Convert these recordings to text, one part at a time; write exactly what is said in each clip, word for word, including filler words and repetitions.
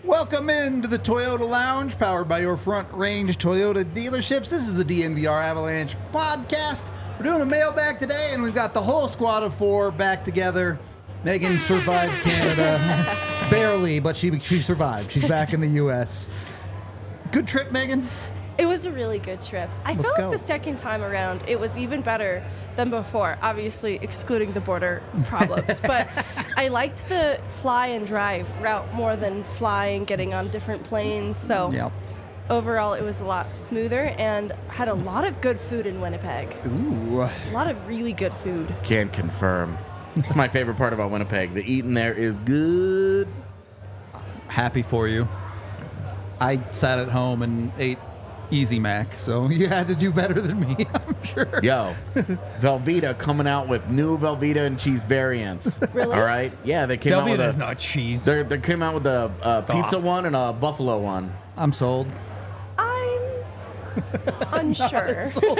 Welcome into the Toyota Lounge, powered by your Front Range Toyota dealerships. This is the D N V R Avalanche podcast. We're doing a mailbag today, and we've got the whole squad of four back together. Megan survived Canada. Barely, but she she survived. She's back in the U S. Good trip, Megan? It was a really good trip. I Let's felt go. like the second time around, it was even better than before, obviously excluding the border problems. But I liked the fly and drive route more than flying, getting on different planes. So Yep. overall, it was a lot smoother and had a lot of good food in Winnipeg. Ooh. A lot of really good food. Can confirm. It's my favorite part about Winnipeg. The eating there is good. Happy for you. I sat at home and ate Easy Mac, so you had to do better than me, I'm sure. Yo, Velveeta coming out with new Velveeta and cheese variants. Really? All right? Yeah, they came out with Velveeta a... is not cheese. They they came out with a, a Stop. pizza one and a buffalo one. I'm sold. I'm unsure.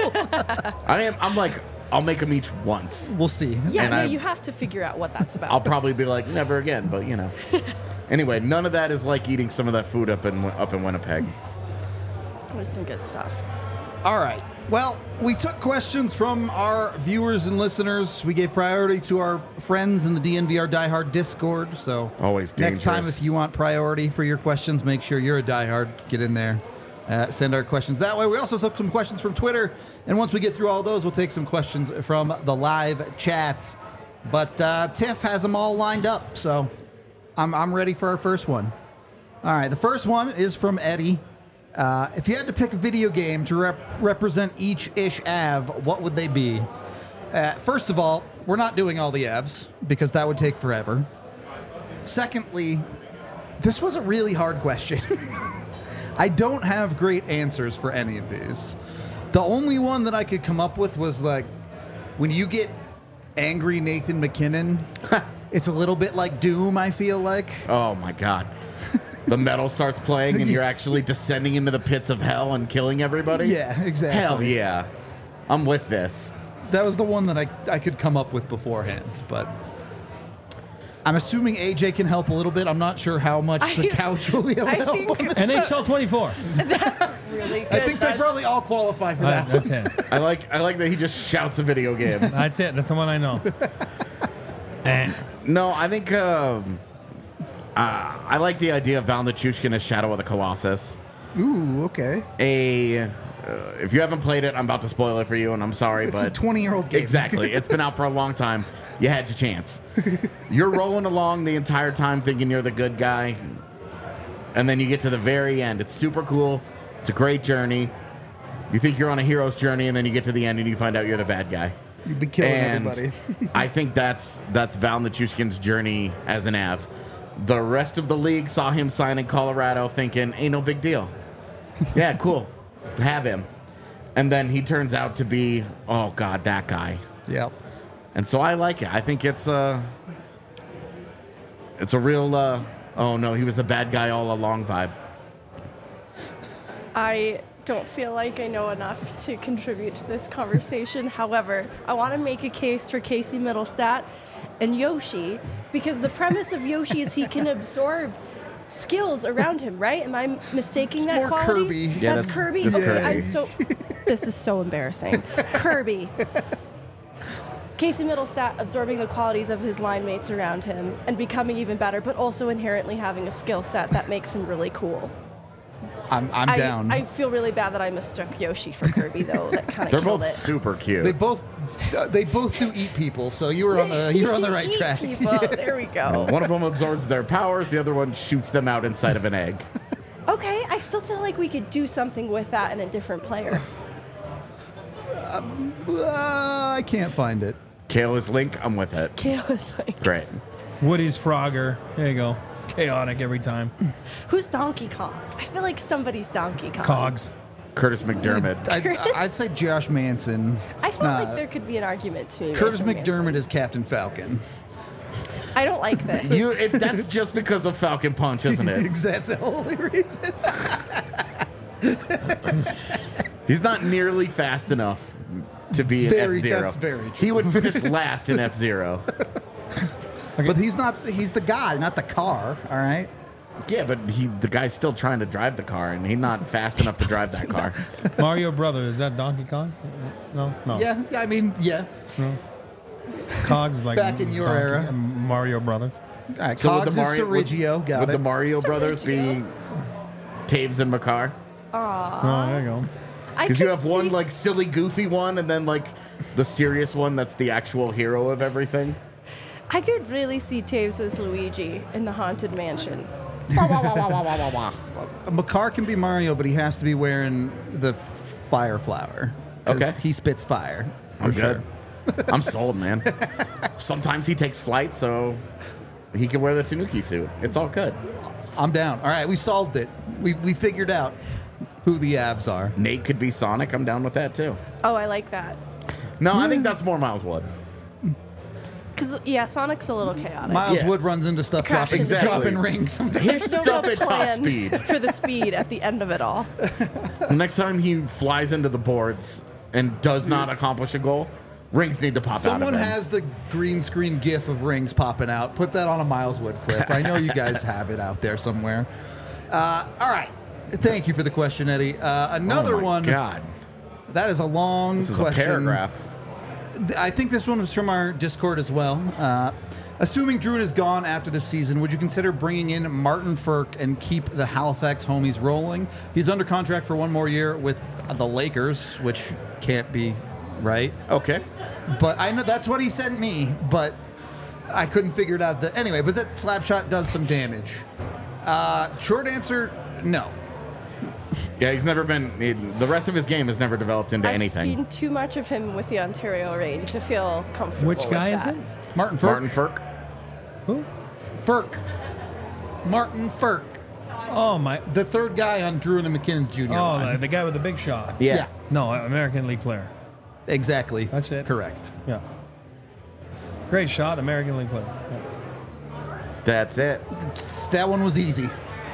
I am. I'm like, I'll make them each once. We'll see. Yeah, And no, I- you have to figure out what that's about. I'll probably be like, never again, but you know. Anyway, none of that is like eating some of that food up in up in Winnipeg. It was some good stuff. All right. Well, we took questions from our viewers and listeners. We gave priority to our friends in the D N V R Die Hard Discord. So Always next time, dangerous. if you want priority for your questions, make sure you're a Die Hard. Get in there. Uh, send our questions that way. We also took some questions from Twitter. And once we get through all those, we'll take some questions from the live chat. But uh, Tiff has them all lined up. So I'm, I'm ready for our first one. All right. The first one is from Eddie. Uh, if you had to pick a video game to rep- represent each ish Av, what would they be? Uh, first of all, we're not doing all the Avs because that would take forever. Secondly, this was a really hard question. I don't have great answers for any of these. The only one that I could come up with was like, when you get angry Nathan McKinnon, it's a little bit like Doom, I feel like. Oh my God. The metal starts playing and you're actually descending into the pits of hell and killing everybody? Yeah, exactly. Hell yeah. I'm with this. That was the one that I, I could come up with beforehand, but I'm assuming A J can help a little bit. I'm not sure how much the I- couch will be able I to help think- on this. N H L twenty-four. Really good. I think they That's- probably all qualify for Uh, that. that's it. I like I like that he just shouts a video game. That's it. That's the one I know. Eh. No, I think um, uh, I like the idea of Val Nichushkin as Shadow of the Colossus. Ooh, okay. A uh, if you haven't played it, I'm about to spoil it for you, and I'm sorry, It's but a twenty-year-old game. exactly, it's been out for a long time. You had your chance. You're rolling along the entire time thinking you're the good guy, and then you get to the very end. It's super cool. It's a great journey. You think you're on a hero's journey, and then you get to the end, and you find out you're the bad guy. You'd be killing And everybody. I think that's that's Val Nichushkin's journey as an Av. The rest of the league saw him sign in Colorado thinking, ain't no big deal. Yeah, cool. Have him. And then he turns out to be, oh, God, that guy. Yep. And so I like it. I think it's a, it's a real, uh, oh, no, he was the bad guy all along vibe. I don't feel like I know enough to contribute to this conversation. However, I want to make a case for Casey Middlestat and Yoshi, because the premise of Yoshi is he can absorb skills around him, right? Am I mistaking It's that more quality? Kirby. Yeah, that's, that's- Kirby. that's okay, Kirby. I'm so. This is so embarrassing. Kirby. Casey Middlestat absorbing the qualities of his line mates around him and becoming even better, but also inherently having a skill set that makes him really cool. I'm, I'm I, down. I feel really bad that I mistook Yoshi for Kirby, though. That kind They're of killed both it. super cute. they both uh, they both do eat people, so you were on the you were on the right Eat track. people. There we go. One of them absorbs their powers. The other one shoots them out inside of an egg. Okay, I still feel like we could do something with that in a different player. Uh, I can't find it. Kale is Link. I'm with it. Kale is like, Great. Woody's Frogger. There you go. It's chaotic every time. who's Donkey Kong? I feel like somebody's Donkey Kong. Cogs. Curtis McDermott. I'd, I'd say Josh Manson. I feel Nah, like there could be an argument to me. Curtis for Manson. McDermott is Captain Falcon. I don't like this. You, it, that's just because of Falcon Punch, isn't it? That's the only reason. He's not nearly fast enough to be in Very- F-Zero. that's very He would finish last in F-Zero. But he's not. He's the guy, not the car. All right. Yeah, but he the guy's still trying to drive the car, and he's not fast enough to drive that car. Mario Brother, is that Donkey Kong? No, no. Yeah, I mean, yeah. Cogs is like Back in your Donkey- era. Mario Brothers. All right, So would Cogs the is Mario would, Sergio. Got would it. the Mario Brothers be Sergio. Taves and Makar? Oh, there you go. I Because you could have one see- like silly, goofy one, and then like the serious one that's the actual hero of everything. I could really see Taves as Luigi in the Haunted Mansion. Makar can be Mario, but he has to be wearing the fire flower. 'Cause Okay. He spits fire. I'm for good. sure. I'm sold, man. Sometimes he takes flight, so he can wear the Tanuki suit. It's all good. I'm down. All right, we solved it. We, we figured out who the Avs are. Nate could be Sonic. I'm down with that too. Oh, I like that. No, I think that's more Miles Wood. Because, yeah, Sonic's a little chaotic. Miles Yeah. Wood runs into stuff Crash dropping, Exactly. dropping rings sometimes. Here's No stuff real at top plan speed. for the speed at the end of it all. The next time he flies into the boards and does not accomplish a goal, rings need to pop Someone out of him. has the green screen gif of rings popping out. Put that on a Miles Wood clip. I know you guys have it out there somewhere. Uh, all right. Thank you for the question, Eddie. Uh, another oh my one. God, That is a long this is question. a paragraph. I think this one was from our Discord as well. Uh, assuming Druid is gone after this season, would you consider bringing in Martin Ferk and keep the Halifax homies rolling? He's under contract for one more year with the Lakers, which can't be right. Okay. But I know that's what he sent me, but I couldn't figure it out. The, anyway, but that slap shot does some damage. Uh, short answer, no. Yeah, he's never been. He, the rest of his game has never developed into I've anything. seen too much of him with the Ontario Reign to feel comfortable Which guy with is that. it? Martin Ferk. Martin Ferk. Who? Ferk. Martin Ferk. Oh, my. The third guy on Drew and McKinnon's junior Oh, line. the, the guy with the big shot. Yeah. Yeah. No, American League player. Exactly. That's it. Correct. Yeah. Great shot, American League player. Yeah. That's it. That one was easy.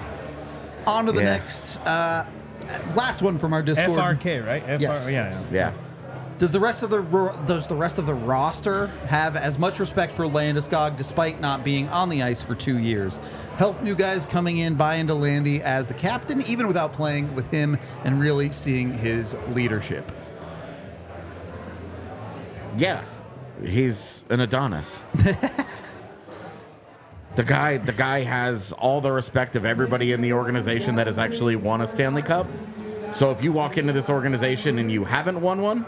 On to the Yeah. next. Uh, last one from our Discord. F R K, right? F R- Yes. Yeah, Yes. yeah. Yeah. Does the rest of the ro- does the rest of the roster have as much respect for Landeskog despite not being on the ice for two years? Help new guys coming in buy into Landy as the captain, even without playing with him and really seeing his leadership. Yeah. He's an Adonis. The guy, the guy has all the respect of everybody in the organization that has actually won a Stanley Cup. So if you walk into this organization and you haven't won one,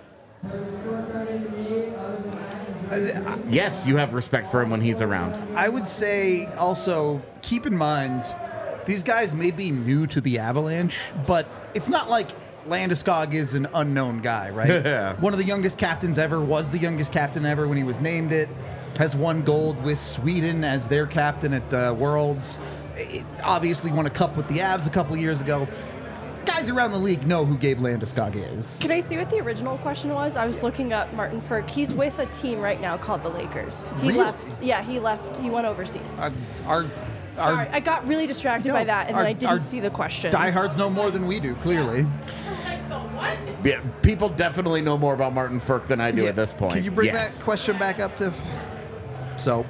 yes, you have respect for him when he's around. I would say also keep in mind these guys may be new to the Avalanche, but it's not like Landeskog is an unknown guy, right? Yeah. One of the youngest captains ever, was the youngest captain ever when he was named it, has won gold with Sweden as their captain at the Worlds. It obviously won a cup with the Avs a couple years ago. Guys around the league know who Gabe Landeskog is. Can I see what the original question was? I was looking up Martin Ferk. He's with a team right now called the Lakers. He Really? left. Yeah, he left. He went overseas. Uh, our, Sorry, our I got really distracted No, by that, and our- then I didn't our see the question. diehards know more than we do, clearly. Yeah, people definitely know more about Martin Ferk than I do Yeah. at this point. Can you bring Yes. that question back up, Tiff? So,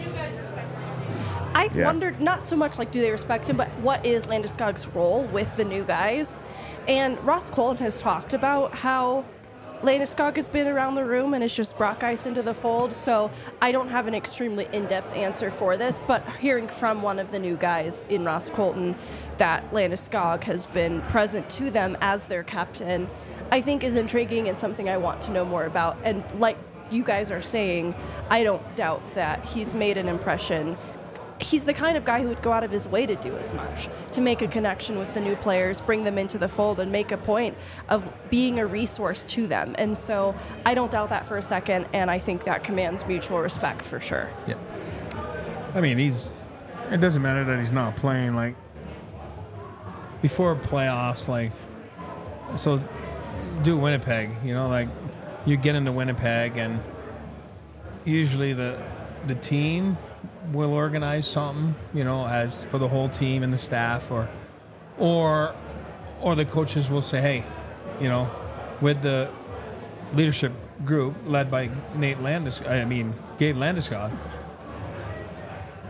I've Yeah. wondered not so much like do they respect him, but what is Landeskog's role with the new guys? And Ross Colton has talked about how Landeskog has been around the room and has just brought guys into the fold. So I don't have an extremely in-depth answer for this, but hearing from one of the new guys in Ross Colton that Landeskog has been present to them as their captain, I think is intriguing and something I want to know more about. And like you guys are saying, I don't doubt that he's made an impression. He's the kind of guy who would go out of his way to do as much, to make a connection with the new players, bring them into the fold, and make a point of being a resource to them. And so I don't doubt that for a second, and I think that commands mutual respect for sure. yeah. I mean, he's. It doesn't matter that he's not playing. Like before playoffs, like so, do Winnipeg. You know, like you get into Winnipeg, and usually the the team will organize something. You know, as for the whole team and the staff, or or or the coaches will say, hey, you know, with the leadership group led by Nate Landis. I mean, Gabe Landeskog.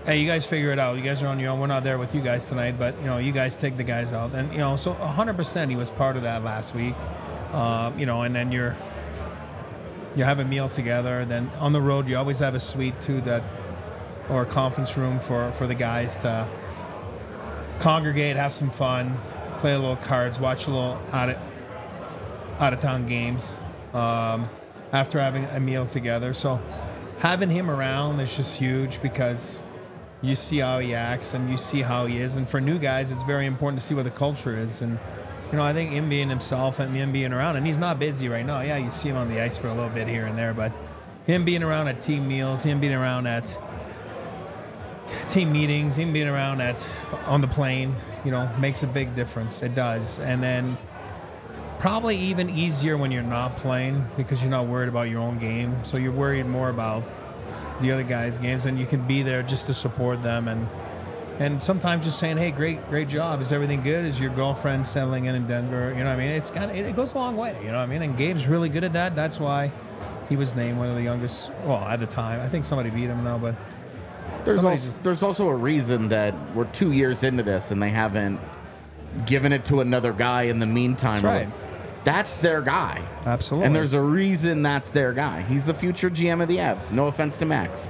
hey, you guys figure it out. You guys are on your own. We're not there with you guys tonight, but, you know, you guys take the guys out. And, you know, so one hundred percent he was part of that last week. Uh, you know, and then you're, you have a meal together. Then on the road, you always have a suite, too, that, or a conference room for, for the guys to congregate, have some fun, play a little cards, watch a little out of, out of town games um, after having a meal together. So having him around is just huge because you see how he acts and you see how he is. And for new guys, it's very important to see what the culture is. And, you know, I think him being himself and him being around, and he's not busy right now. Yeah, you see him on the ice for a little bit here and there, but him being around at team meals, him being around at team meetings, him being around at on the plane, you know, makes a big difference. It does. And then probably even easier when you're not playing because you're not worried about your own game. So you're worried more about the other guys' games, and you can be there just to support them. And and sometimes just saying, hey, great great job. Is everything good? Is your girlfriend settling in in Denver? You know what I mean? It's kind of, it, it goes a long way, you know what I mean? And Gabe's really good at that. That's why he was named one of the youngest, well, at the time. I think somebody beat him now, but There's somebody also, just- there's also a reason that we're two years into this and they haven't given it to another guy in the meantime. That's right. That's their guy. Absolutely. And there's a reason that's their guy. He's the future G M of the Avs. No offense to Max.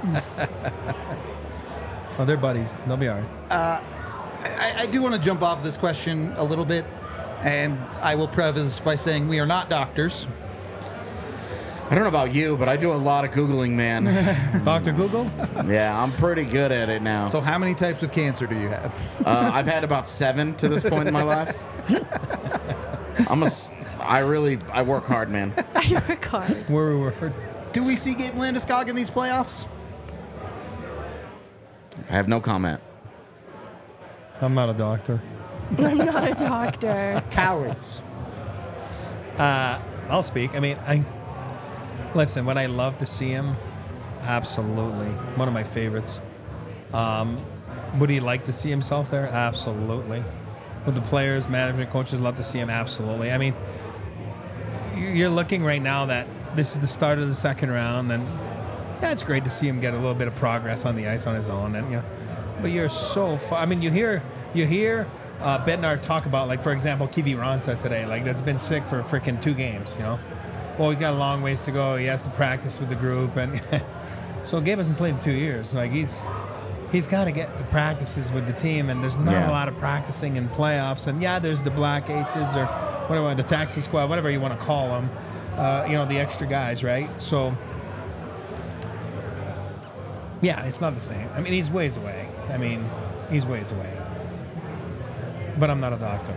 Oh, they're buddies. They'll be all right. I, I do want to jump off this question a little bit, and I will preface by saying we are not doctors. I don't know about you, but I do a lot of Googling, man. Doctor Google? Yeah, I'm pretty good at it now. So how many types of cancer do you have? Uh, I've had about seven to this point in my life. I'm a, s- I really, I work hard, man. I work hard. Where we were. Do we see Gabe Landeskog in these playoffs? I have no comment. I'm not a doctor. I'm not a doctor. Cowards. Uh, I'll speak. I mean, I listen. Would I love to see him? Absolutely, one of my favorites. Um, would he like to see himself there? Absolutely. Would the players, management, coaches love to see him? Absolutely. I mean, you- you're looking right now that this is the start of the second round, and yeah, it's great to see him get a little bit of progress on the ice on his own, and you know, but you're so far. I mean, you hear you hear uh, Bednar talk about, like, for example, Kiviranta today, like, that's been sick for freaking two games, you know. Well, he got a long ways to go. He has to practice with the group, and so Gabe hasn't played in two years. Like, he's he's got to get the practices with the team, and there's not Yeah. a lot of practicing in playoffs. And yeah, there's the Black Aces or whatever, the taxi squad, whatever you want to call them. Uh, you know, the extra guys, right? So. Yeah, it's not the same. I mean, he's ways away. I mean, he's ways away. But I'm not a doctor.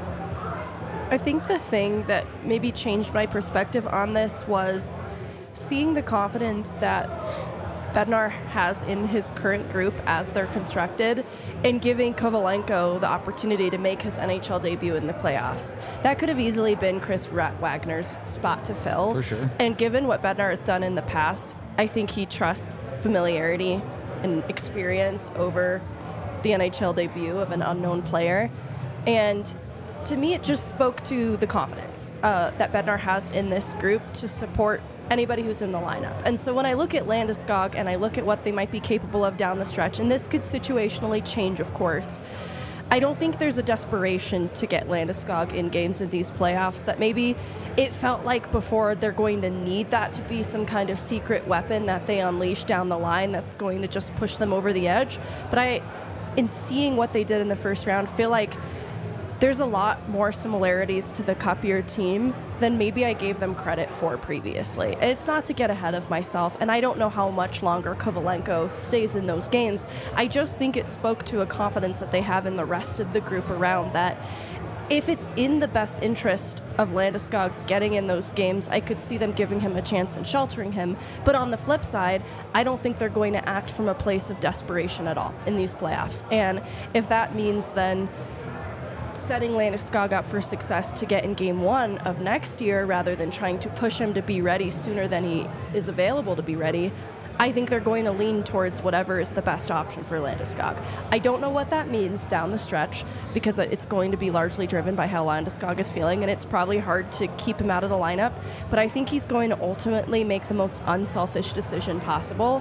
I think the thing that maybe changed my perspective on this was seeing the confidence that Bednar has in his current group as they're constructed and giving Kovalenko the opportunity to make his N H L debut in the playoffs. That could have easily been Chris Rat Wagner's spot to fill. For sure. And given what Bednar has done in the past, I think he trusts familiarity and experience over the N H L debut of an unknown player. And to me, it just spoke to the confidence uh, that Bednar has in this group to support anybody who's in the lineup. And so when I look at Landeskog and I look at what they might be capable of down the stretch, and this could situationally change, of course, I don't think there's a desperation to get Landeskog in games in these playoffs that maybe it felt like before they're going to need that to be some kind of secret weapon that they unleash down the line that's going to just push them over the edge. But I, in seeing what they did in the first round, feel like there's a lot more similarities to the Cup-year team than maybe I gave them credit for previously. And it's not to get ahead of myself, and I don't know how much longer Kovalenko stays in those games. I just think it spoke to a confidence that they have in the rest of the group around that if it's in the best interest of Landeskog getting in those games, I could see them giving him a chance and sheltering him. But on the flip side, I don't think they're going to act from a place of desperation at all in these playoffs. And if that means then setting Landeskog up for success to get in game one of next year rather than trying to push him to be ready sooner than he is available to be ready, I think they're going to lean towards whatever is the best option for Landeskog. I don't know what that means down the stretch because it's going to be largely driven by how Landeskog is feeling, and it's probably hard to keep him out of the lineup, but I think he's going to ultimately make the most unselfish decision possible.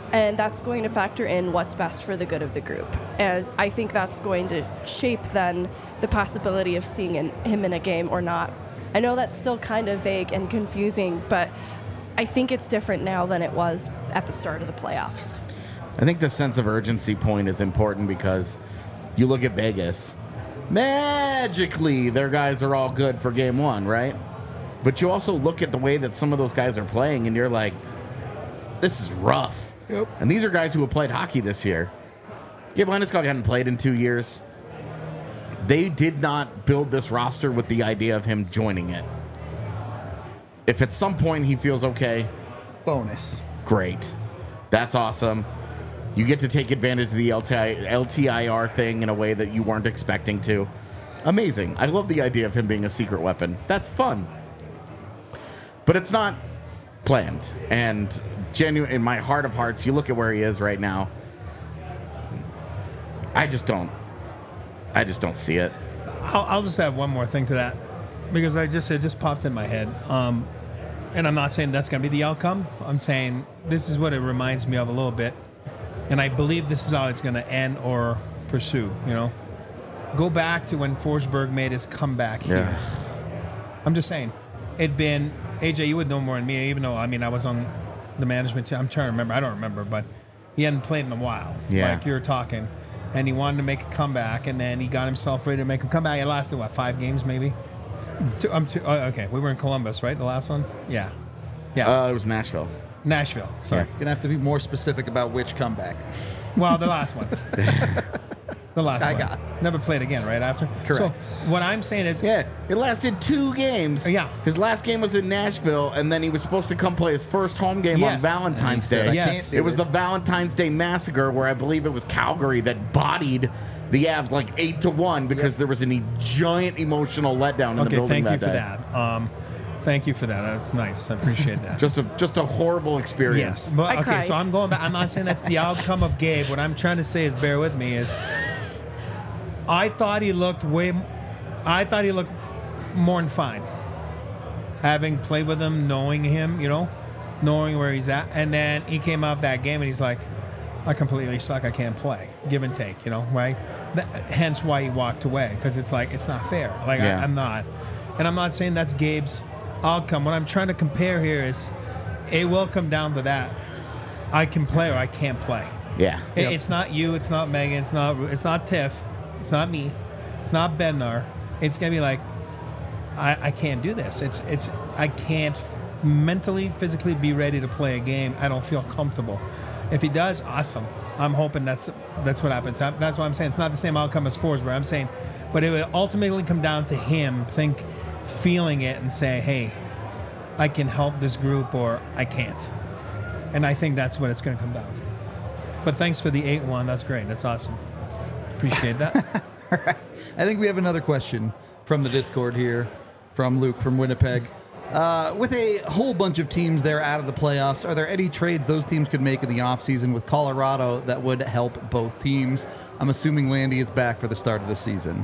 And that's going to factor in what's best for the good of the group. And I think that's going to shape then the possibility of seeing in, him in a game or not. I know that's still kind of vague and confusing, but I think it's different now than it was at the start of the playoffs. I think the sense of urgency point is important because you look at Vegas, magically their guys are all good for game one, right? But you also look at the way that some of those guys are playing and you're like, this is rough. Yep. And these are guys who have played hockey this year. Gabe Landeskog hadn't played in two years. They did not build this roster with the idea of him joining it. If at some point he feels okay, Bonus. great. That's awesome. You get to take advantage of the L T I, L T I R thing in a way that you weren't expecting to. Amazing. I love the idea of him being a secret weapon. That's fun. But it's not planned. And genuine, in my heart of hearts, you look at where he is right now. I just don't. I just don't see it. I'll, I'll just add one more thing to that because I just it just popped in my head. Um, and I'm not saying that's going to be the outcome. I'm saying this is what it reminds me of a little bit. And I believe this is how it's going to end or pursue, you know. Go back to when Forsberg made his comeback here. Yeah. I'm just saying. It'd been, A J, you would know more than me, even though, I mean, I was on the management team. I'm trying to remember. I don't remember, but he hadn't played in a while. Yeah. Like you were talking. And he wanted to make a comeback, and then he got himself ready to make a comeback. It lasted, what, five games maybe? Two, um, two, oh, okay, we were in Columbus, right? The last one? Yeah. Yeah. Uh, it was Nashville. Nashville, sorry. Yeah. Gonna have to be more specific about which comeback. Well, the last one. The last I one. got. Never played again, right after? Correct. So what I'm saying is, Yeah, it lasted two games. Yeah. His last game was in Nashville, and then he was supposed to come play his first home game on Yes. Valentine's And he said, Day. "I Yes. can't do It was the Valentine's Day Massacre, where I believe it was Calgary that bodied the Avs like eight to one because Yep. there was a e- giant emotional letdown in the okay, building thank you that for day. that. Um, thank you for that. That's nice. I appreciate that. Just a just a horrible experience. Yes, but I okay. cried. So I'm going back. I'm not saying that's the outcome of Gabe. What I'm trying to say is, bear with me. Is I thought he looked way. I thought he looked more than fine. Having played with him, knowing him, you know, knowing where he's at, and then he came out that game and he's like, "I completely suck. I can't play." Give and take, you know, right? That, hence why he walked away, because it's like it's not fair. Like Yeah. I, I'm not, and I'm not saying that's Gabe's outcome. What I'm trying to compare here is, it will come down to that. I can play or I can't play. Yeah. It- Yep. It's not you. It's not Megan. It's not. It's not Tiff. It's not me. It's not Bednar. It's gonna be like, I, I can't do this. It's it's I can't mentally, physically be ready to play a game. I don't feel comfortable. If he does, awesome. I'm hoping that's that's what happens. I'm- That's why I'm saying it's not the same outcome as Forsberg. I'm saying, but it will ultimately come down to him think, feeling it, and say, hey, I can help this group or I can't. And I think that's what it's going to come down to. But thanks for the eight one. That's great. That's awesome. Appreciate that. I think we have another question from the Discord here, from Luke from Winnipeg. Uh, with a whole bunch of teams there out of the playoffs, are there any trades those teams could make in the offseason with Colorado that would help both teams? I'm assuming Landy is back for the start of the season.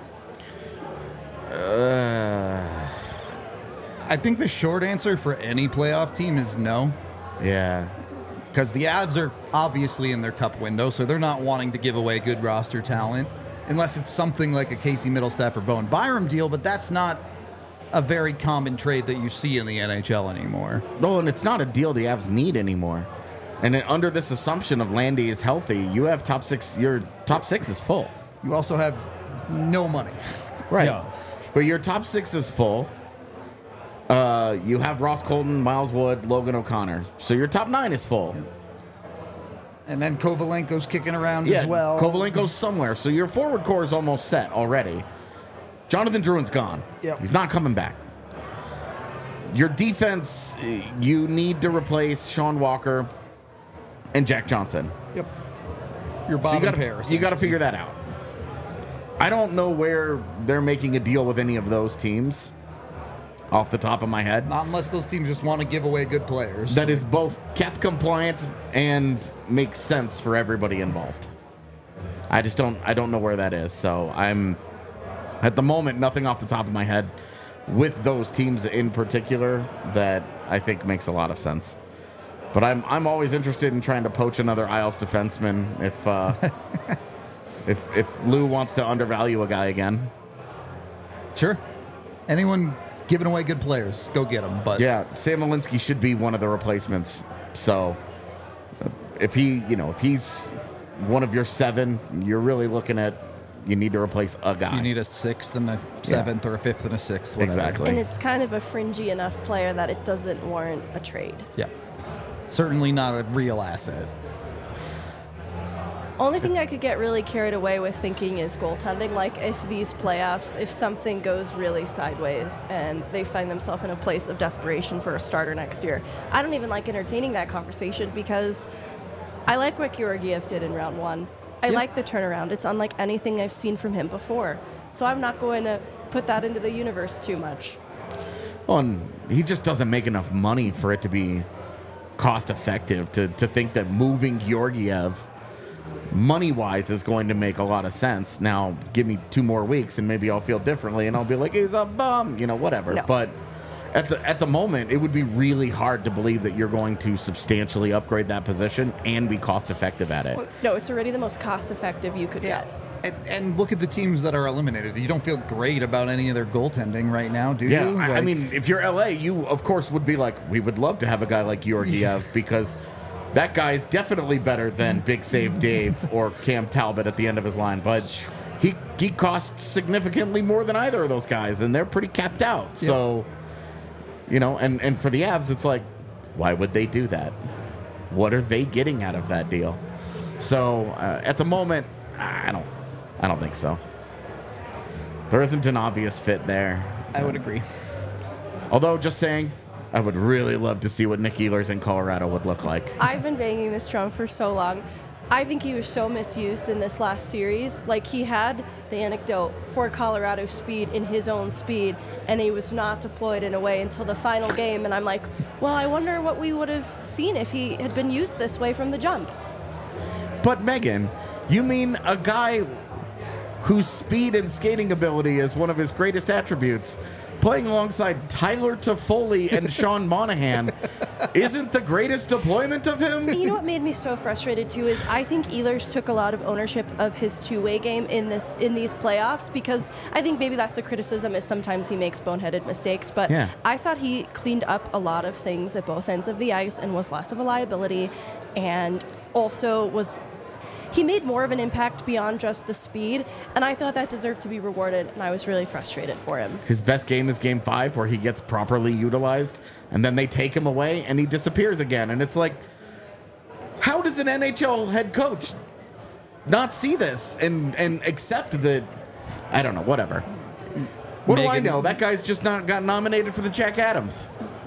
Uh, I think the short answer for any playoff team is no, yeah. because the Avs are obviously in their cup window, so they're not wanting to give away good roster talent unless it's something like a Casey Middlestaff or Bowen Byram deal, but that's not a very common trade that you see in the N H L anymore. No, and it's not a deal the Avs need anymore. And then under this assumption of Landy is healthy, you have top six. Your top six is full. You also have no money. Right. Yeah. But your top six is full. Uh, you have Ross Colton, Miles Wood, Logan O'Connor. So your top nine is full. And then Kovalenko's kicking around Yeah, as well. Kovalenko's somewhere. So your forward core is almost set already. Jonathan Drouin's gone. Yep. He's not coming back. Your defense, eh, you need to replace Sean Walker and Jack Johnson. Yep. Your So you bottom gotta, pair. you got to figure that out. I don't know where they're making a deal with any of those teams off the top of my head. Not unless those teams just want to give away good players. That is both cap compliant and makes sense for everybody involved. I just don't I don't know where that is. So I'm at the moment nothing off the top of my head with those teams in particular that I think makes a lot of sense. But I'm I'm always interested in trying to poach another Isles defenseman if uh, if if Lou wants to undervalue a guy again. Sure. Anyone giving away good players, go get them. But Yeah, Sam Malinsky should be one of the replacements. So uh, if he, you know, if he's one of your seven, you're really looking at you need to replace a guy. you need a sixth and a seventh or a fifth and a sixth. Whatever. Exactly. And it's kind of a fringy enough player that it doesn't warrant a trade. Yeah. Certainly not a real asset. Only thing I could get really carried away with thinking is goaltending. Like, if these playoffs, if something goes really sideways and they find themselves in a place of desperation for a starter next year, I don't even like entertaining that conversation because I like what Georgiev did in round one. I Yeah. like the turnaround. It's unlike anything I've seen from him before. So I'm not going to put that into the universe too much. Well, and he just doesn't make enough money for it to be cost effective to, to think that moving Georgiev money wise is going to make a lot of sense. Now, give me two more weeks and maybe I'll feel differently and I'll be like, he's a bum, you know, whatever. No. But at the at the moment, it would be really hard to believe that you're going to substantially upgrade that position and be cost effective at it. No, it's already the most cost effective you could Yeah. get. And, and look at the teams that are eliminated. You don't feel great about any of their goaltending right now, do Yeah, you? I, I Like- mean, if you're L A, you of course would be like, we would love to have a guy like Georgiev because that guy is definitely better than Big Save Dave or Cam Talbot at the end of his line. But he he costs significantly more than either of those guys, and they're pretty capped out. So, you know, and, and for the Avs, it's like, why would they do that? What are they getting out of that deal? So uh, at the moment, I don't, I don't think so. There isn't an obvious fit there. I would agree. Although, just saying, I would really love to see what Nick Ehlers in Colorado would look like. I've been banging this drum for so long. I think he was so misused in this last series. Like, he had the anecdote for Colorado speed in his own speed, and he was not deployed in a way until the final game. And I'm like, well, I wonder what we would have seen if he had been used this way from the jump. But, Megan, you mean a guy whose speed and skating ability is one of his greatest attributes, playing alongside Tyler Toffoli and Sean Monahan, isn't the greatest deployment of him? You know what made me so frustrated too is I think Ehlers took a lot of ownership of his two-way game in this in these playoffs, because I think maybe that's the criticism is sometimes he makes boneheaded mistakes, but Yeah. I thought he cleaned up a lot of things at both ends of the ice and was less of a liability, and also was he made more of an impact beyond just the speed, and I thought that deserved to be rewarded, and I was really frustrated for him. His best game is game five, where he gets properly utilized, and then they take him away, and he disappears again. And it's like, how does an N H L head coach not see this and, and accept that? I don't know, whatever. What do I Megan- know? That guy's just not got nominated for the Jack Adams.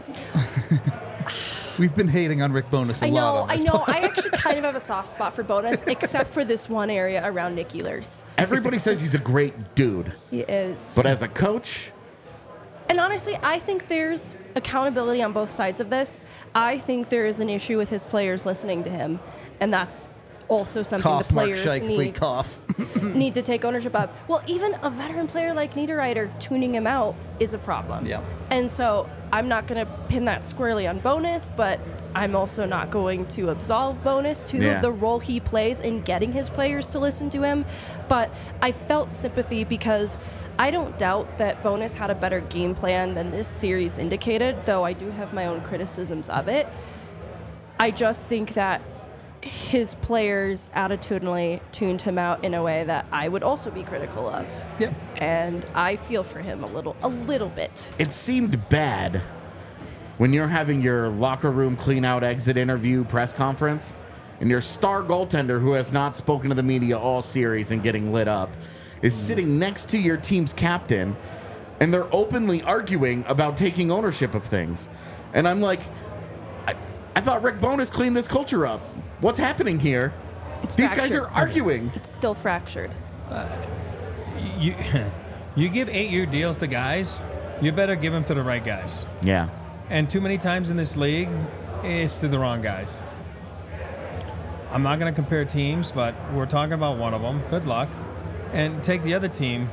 We've been hating on Rick Bowness a I lot know, on I this know. pod. I actually kind of have a soft spot for Bonus, except for this one area around Nick Ehlers. Everybody says he's a great dude, He is. but as a coach, And honestly, I think there's accountability on both sides of this. I think there is an issue with his players listening to him, and that's also something Cough, the Mark players Scheifele, need, cough. need to take ownership of. Well, even a veteran player like Niederreiter tuning him out is a problem. Yeah. And so I'm not going to pin that squarely on Bonus, but I'm also not going to absolve Bonus to Yeah. the role he plays in getting his players to listen to him. But I felt sympathy because I don't doubt that Bonus had a better game plan than this series indicated, though I do have my own criticisms of it. I just think that his players attitudinally tuned him out in a way that I would also be critical of. Yep. And I feel for him a little a little bit. it seemed bad when you're having your locker room clean out exit interview press conference and your star goaltender, who has not spoken to the media all series and getting lit up, is sitting next to your team's captain, and they're openly arguing about taking ownership of things. And I'm like, I, I thought Rick Bowness cleaned this culture up. What's happening here? It's These guys fractured. are arguing. It's still fractured. You, you give eight-year deals to guys, you better give them to the right guys. Yeah. And too many times in this league, it's to the wrong guys. I'm not going to compare teams, but we're talking about one of them. Good luck. And take the other team.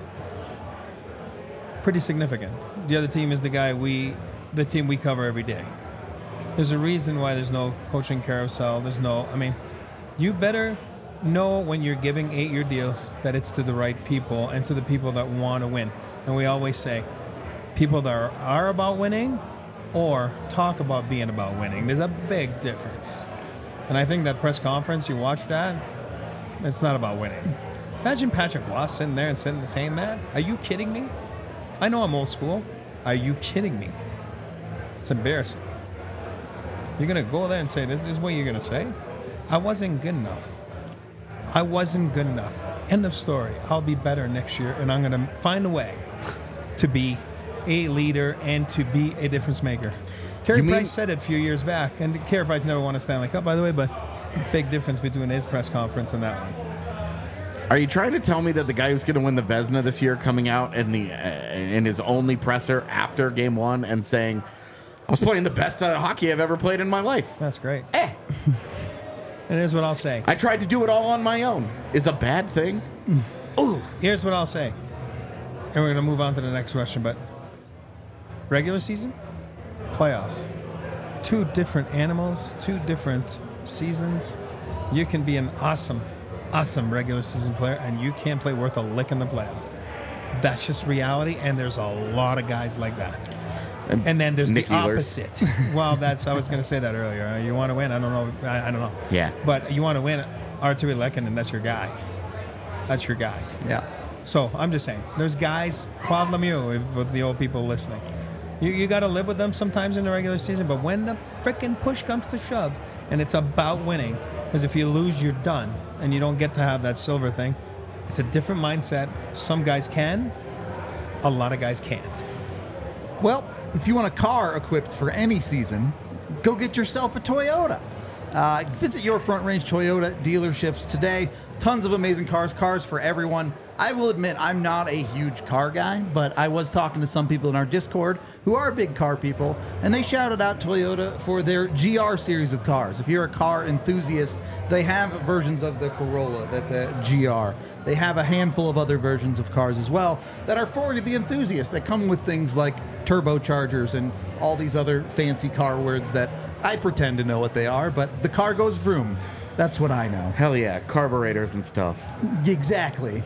Pretty significant. The other team is the guy we, the team we cover every day. There's a reason why there's no coaching carousel. There's no, I mean, you better know when you're giving eight-year deals that it's to the right people and to the people that want to win. And we always say, people that are, are about winning or talk about being about winning. There's a big difference. And I think that press conference, you watch that, it's not about winning. Imagine Patrick Waugh sitting there and sitting, saying that. Are you kidding me? I know I'm old school. Are you kidding me? It's embarrassing. You're going to go there and say, this is what you're going to say? I wasn't good enough. I wasn't good enough. End of story. I'll be better next year, and I'm going to find a way to be a leader and to be a difference maker. Carey mean- Price said it a few years back, and Carey Price never won a Stanley Cup, by the way, but big difference between his press conference and that one. Are you trying to tell me that the guy who's going to win the Vezina this year coming out in the uh, in his only presser after game one and saying, I was playing the best uh, hockey I've ever played in my life? That's great. Eh. And here's what I'll say. I tried to do it all on my own. Is a bad thing? Ooh. Here's what I'll say. And we're going to move on to the next question, but regular season, playoffs. Two different animals, two different seasons. You can be an awesome, awesome regular season player, and you can't play worth a lick in the playoffs. That's just reality, and there's a lot of guys like that. And, And then there's Nick the Ehlers. opposite. Well, that's I was going to say that earlier. Uh, you want to win? I don't know. I, I don't know. Yeah. But you want to win, Artturi Lehkonen, that's your guy. That's your guy. Yeah. So I'm just saying, there's guys, Claude Lemieux, if, with the old people listening. You, you got to live with them sometimes in the regular season, but when the frickin' push comes to shove, and it's about winning, because if you lose, you're done, and you don't get to have that silver thing, it's a different mindset. Some guys can, a lot of guys can't. Well, if you want a car equipped for any season, go get yourself a Toyota. Uh, visit your Front Range Toyota dealerships today. Tons of amazing cars, cars for everyone. I will admit I'm not a huge car guy, but I was talking to some people in our Discord who are big car people, and they shouted out Toyota for their G R series of cars. If you're a car enthusiast, they have versions of the Corolla that's a G R. They have a handful of other versions of cars as well that are for the enthusiast, that come with things like turbochargers and all these other fancy car words that I pretend to know what they are, but the car goes vroom. That's what I know. Hell yeah, carburetors and stuff. Exactly.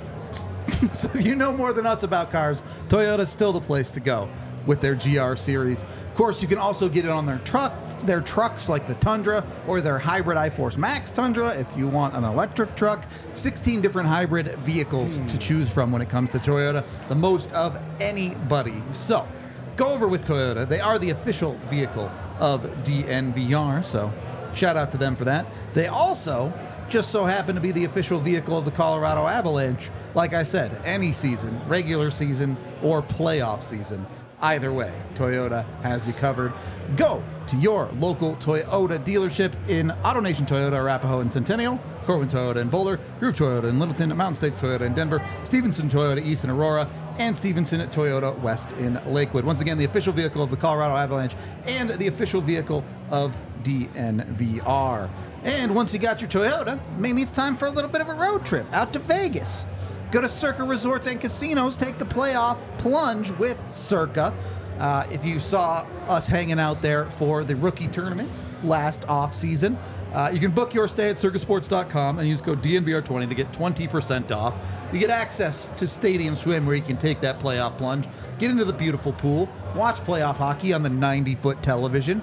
So if you know more than us about cars, Toyota's still the place to go with their G R series. Of course, you can also get it on their truck, their trucks like the Tundra or their hybrid iForce Max Tundra if you want an electric truck. sixteen different hybrid vehicles to choose from when it comes to Toyota, the most of anybody. So go over with Toyota. They are the official vehicle of D N V R, so shout out to them for that. They also just so happen to be the official vehicle of the Colorado Avalanche. Like I said, any season, regular season or playoff season, either way, Toyota has you covered. Go to your local Toyota dealership in AutoNation Toyota, Arapahoe and Centennial, Corwin Toyota in Boulder, Group Toyota in Littleton, Mountain States Toyota in Denver, Stevenson Toyota East in Aurora, and Stevenson Toyota West in Lakewood. Once again, the official vehicle of the Colorado Avalanche and the official vehicle of D N V R. And once you got your Toyota, maybe it's time for a little bit of a road trip out to Vegas. Go to Circa Resorts and Casinos, take the playoff plunge with Circa. Uh, if you saw us hanging out there for the rookie tournament last off season, uh, you can book your stay at circa sports dot com and use code D N V R twenty to get twenty percent off. You get access to Stadium Swim where you can take that playoff plunge, get into the beautiful pool, watch playoff hockey on the ninety-foot television.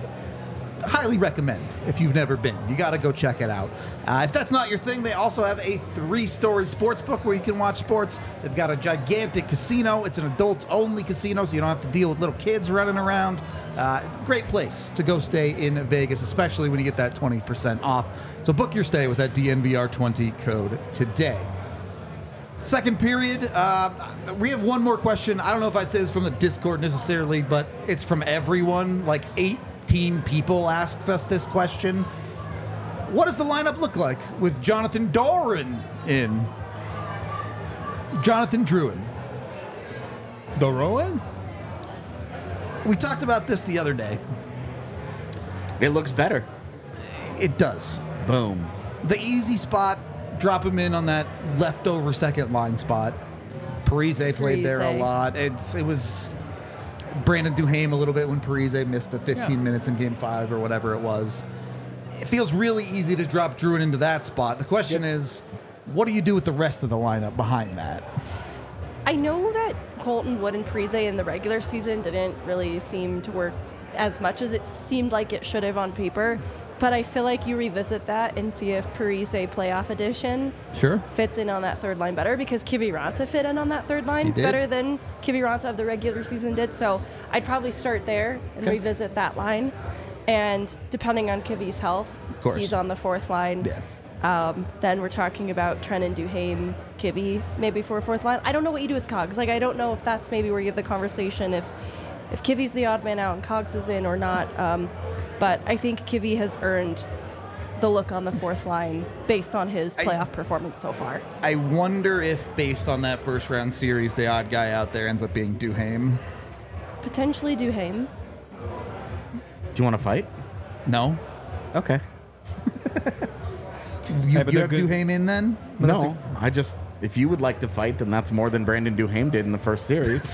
Highly recommend if you've never been. You got to go check it out. Uh, if that's not your thing, they also have a three-story sports book where you can watch sports. They've got a gigantic casino. It's an adults-only casino, so you don't have to deal with little kids running around. Uh, it's a great place to go stay in Vegas, especially when you get that twenty percent off. So book your stay with that D N V R twenty code today. Second period, uh, we have one more question. I don't know if I'd say this from the Discord necessarily, but it's from everyone. Like eighteen people asked us this question. What does the lineup look like with Jonathan Drouin in? Jonathan Drouin. Drouin? We talked about this the other day. It looks better. It does. Boom. The easy spot, drop him in on that leftover second line spot. Parise played there a Parise. lot. It's it was Brandon Duhaime a little bit when Parise missed the fifteen Yeah. minutes in game five or whatever it was. It feels really easy to drop Druin into that spot. The question is, what do you do with the rest of the lineup behind that? I know that Colton Wood and Parise in the regular season didn't really seem to work as much as it seemed like it should have on paper, but I feel like you revisit that and see if Parise playoff edition Sure. fits in on that third line better, because Kiviranta fit in on that third line He did. better than Kiviranta of the regular season did. So I'd probably start there and Okay. revisit that line. And depending on Kivi's health, course. he's on the fourth line. Yeah. Um, then we're talking about Trennan, Duhaime, Kivi, maybe for a fourth line. I don't know what you do with Cogs. Like, I don't know if that's maybe where you have the conversation, if if Kivi's the odd man out and Cogs is in or not. Um, but I think Kivi has earned the look on the fourth line based on his I- playoff performance so far. I wonder if, based on that first round series, the odd guy out there ends up being Duhaime. Potentially Duhaime. Do you want to fight? No? Okay. You, Hey, but you they're have good- Duhaime in then? No, I just if you would like to fight, then that's more than Brandon Duhaime did in the first series,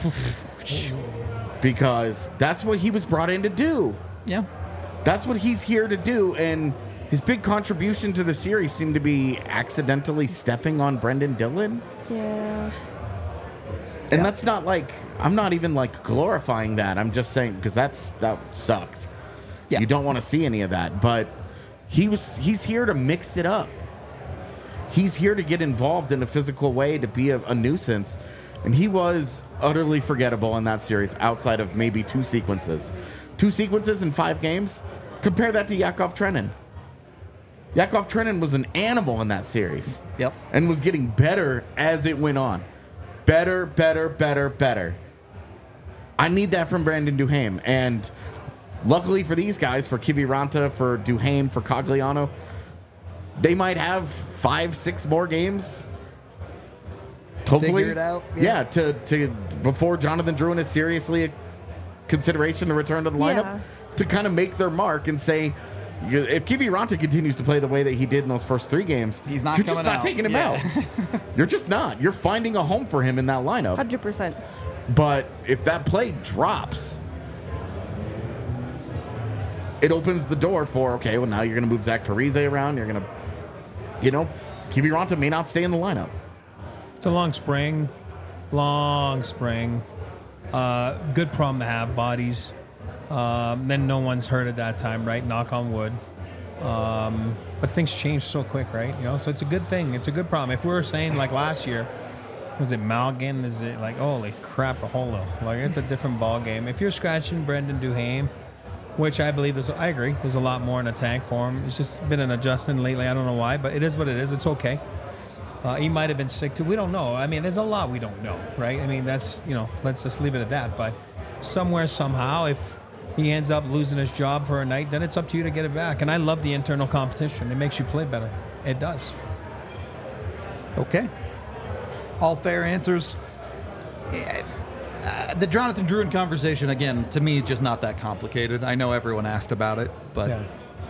because that's what he was brought in to do. Yeah. That's what he's here to do, and his big contribution to the series seemed to be accidentally stepping on Brendan Dillon. Yeah. And Yeah. that's not like I'm not even like glorifying that. I'm just saying because that's that sucked. Yeah. You don't want to see any of that, but he was he's here to mix it up. He's here to get involved in a physical way, to be a, a nuisance, and he was utterly forgettable in that series outside of maybe two sequences. Two sequences in five games? Compare that to Yakov Trenin. Yakov Trenin was an animal in that series. Yep. And was getting better as it went on. Better, better, better, better. I need that from Brandon Duhaime. And luckily for these guys, for Kiviranta, for Duhaime, for Cogliano, they might have five, six more games. Hopefully. Figure it out, Yeah, yeah. to, to before Jonathan Drouin is seriously a consideration to return to the lineup, Yeah. to kind of make their mark and say, you- if Kiviranta continues to play the way that he did in those first three games, He's not you're just coming not out. taking him Yeah. out. You're just not. You're finding a home for him in that lineup. one hundred percent. But if that play drops, it opens the door for, okay, well, now you're going to move Zach Parise around. You're going to, you know, Kiviranta may not stay in the lineup. It's a long spring, long spring. Uh, good problem to have, bodies. Um, then no one's hurt at that time, right? Knock on wood. Um, but things change so quick, right? You know, so it's a good thing. It's a good problem. If we were saying like last year, was it Malgin? Is it like, holy crap, a holo? Like, it's a different ball game. If you're scratching Brendan Duhaime, which I believe there's, I agree, there's a lot more in the tank for him. It's just been an adjustment lately. I don't know why, but it is what it is. It's okay. Uh, he might have been sick too. We don't know. I mean, there's a lot we don't know, right? I mean, that's, you know, let's just leave it at that. But somewhere, somehow, if he ends up losing his job for a night, then it's up to you to get it back. And I love the internal competition. It makes you play better. It does. Okay. All fair answers. Yeah, uh, the Jonathan Drouin conversation, again, to me, just not that complicated. I know everyone asked about it, but Yeah.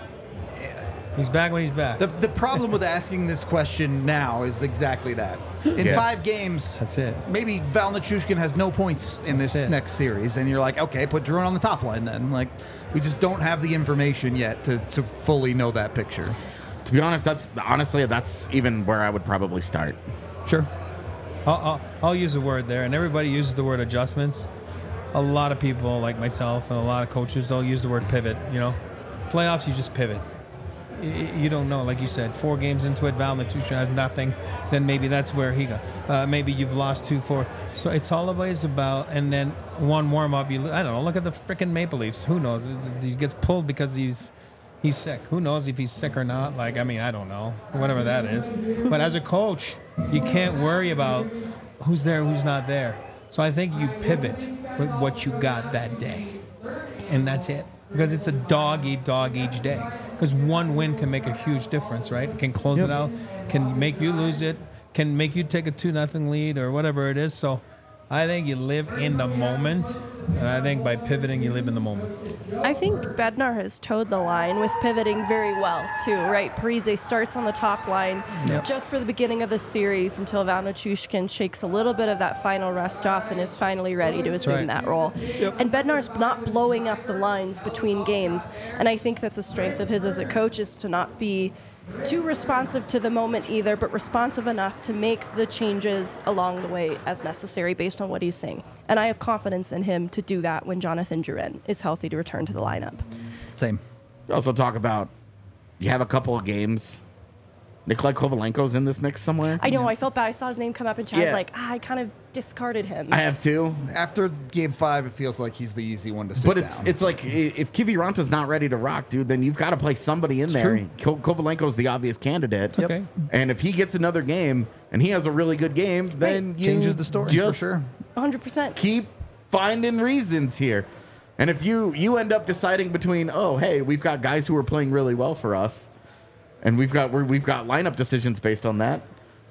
He's back when he's back. the, the problem with asking this question now is exactly that. In Yeah. five games, That's it. maybe Val Nichushkin has no points in That's this it. next series, and you're like, okay, put Drouin on the top line then. Like, we just don't have the information yet to, to fully know that picture. To be honest, that's honestly, that's even where I would probably start. Sure. I'll, I'll, I'll use the word there, and everybody uses the word adjustments. A lot of people, like myself, and a lot of coaches, they'll use the word pivot. You know, playoffs, you just pivot. Y- You don't know, like you said, four games into it, Val Nichushkin has nothing. Then maybe that's where he got. Uh, maybe you've lost two, four. So it's always about, and then one warm up. You, I don't know. Look at the freaking Maple Leafs. Who knows? He gets pulled because he's he's sick. Who knows if he's sick or not? Like, I mean, I don't know. Whatever that is. But as a coach, you can't worry about who's there, who's not there. So I think you pivot with what you got that day, and that's it. Because it's a dog eat dog each day. Because one win can make a huge difference, right? Can close it out, can make you lose it, can make you take a two nothing lead or whatever it is. So I think you live in the moment. And I think by pivoting, you live in the moment. I think Bednar has towed the line with pivoting very well, too, right? Parise starts on the top line Yep. just for the beginning of the series until Valnichushkin shakes a little bit of that final rest off and is finally ready to assume right. that role. Yep. And Bednar's not blowing up the lines between games, and I think that's a strength of his as a coach, is to not be too responsive to the moment either, but responsive enough to make the changes along the way as necessary based on what he's seeing. And I have confidence in him to do that when Jonathan Drouin is healthy to return to the lineup. Same. You also talk about you have a couple of games. Nikolai Kovalenko's in this mix somewhere. I know, I felt bad. I saw his name come up in chat. I Yeah. was like, ah, I kind of discarded him. I have two. After game five, it feels like he's the easy one to sit But it's down. it's like i- if Kiviranta's not ready to rock, dude, then you've got to play somebody in there. true. Ko- Kovalenko's the obvious candidate. Yep. Okay. And if he gets another game and he has a really good game, then you Changes the story just for sure. one hundred percent. keep finding reasons here. And if you you end up deciding between, oh, hey, we've got guys who are playing really well for us, and we've got we're, we've got lineup decisions based on that.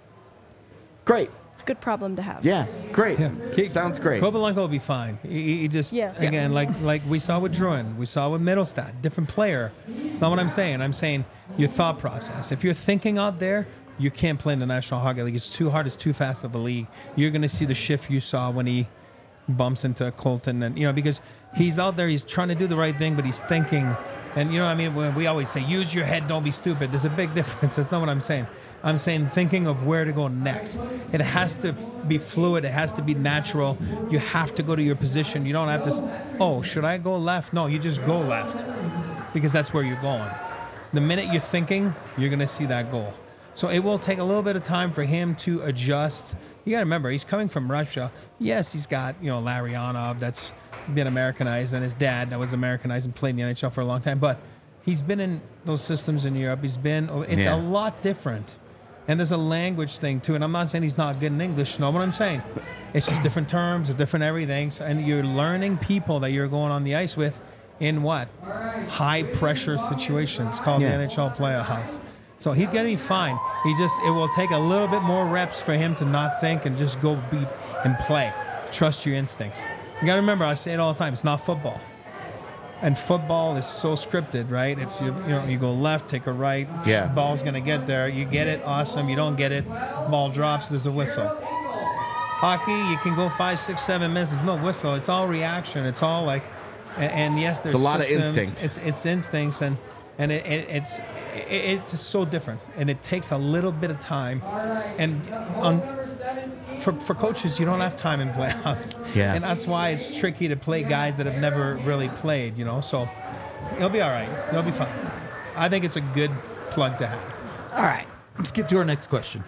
Great. It's a good problem to have. Yeah. Great. Yeah. Sounds great. Kovalenko will be fine. He, he just, Yeah. again, like like we saw with Drouin, we saw with Middlestat, different player. It's not what I'm saying. I'm saying your thought process. If you're thinking out there, you can't play in the National Hockey League. It's too hard. It's too fast of a league. You're going to see the shift you saw when he bumps into Colton. And, you know, because he's out there, he's trying to do the right thing, but he's thinking. And, you know what I mean? When we always say, use your head, don't be stupid. There's a big difference. That's not what I'm saying. I'm saying thinking of where to go next. It has to be fluid. It has to be natural. You have to go to your position. You don't have to, s- oh, should I go left? No, you just go left because that's where you're going. The minute you're thinking, you're going to see that goal. So it will take a little bit of time for him to adjust. You got to remember, he's coming from Russia. Yes, he's got, you know, Larionov that's been Americanized, and his dad that was Americanized and played in the N H L for a long time. But he's been in those systems in Europe. He's been, it's Yeah. a lot different. And there's a language thing too. And I'm not saying he's not good in English. Know what I'm saying? It's just different terms, different everything. So- And you're learning people that you're going on the ice with in what? High pressure situations. It's called Yeah. the N H L playoffs. So he's going to be fine. He just, it will take a little bit more reps for him to not think and just go be and play. Trust your instincts. You got to remember, I say it all the time, it's not football. And football is so scripted, right? It's, you, you know, you go left, take a right, Yeah. ball's going to get there. You get it, awesome. You don't get it, ball drops, there's a whistle. Hockey, you can go five, six, seven minutes, there's no whistle. It's all reaction. It's all like, and, and yes, there's It's a lot of systems. instinct. It's it's instincts, and and it, it, it's it, it's so different, and it takes a little bit of time. And on, for for coaches, you don't have time in playoffs, Yeah. and that's why it's tricky to play guys that have never really played. You know, so he'll be all right. He'll be fine. I think it's a good plug to have. All right, let's get to our next question.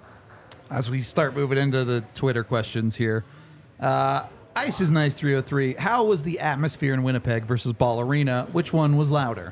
As we start moving into the Twitter questions here, uh, Ice is Nice three oh three. How was the atmosphere in Winnipeg versus Ball Arena? Which one was louder?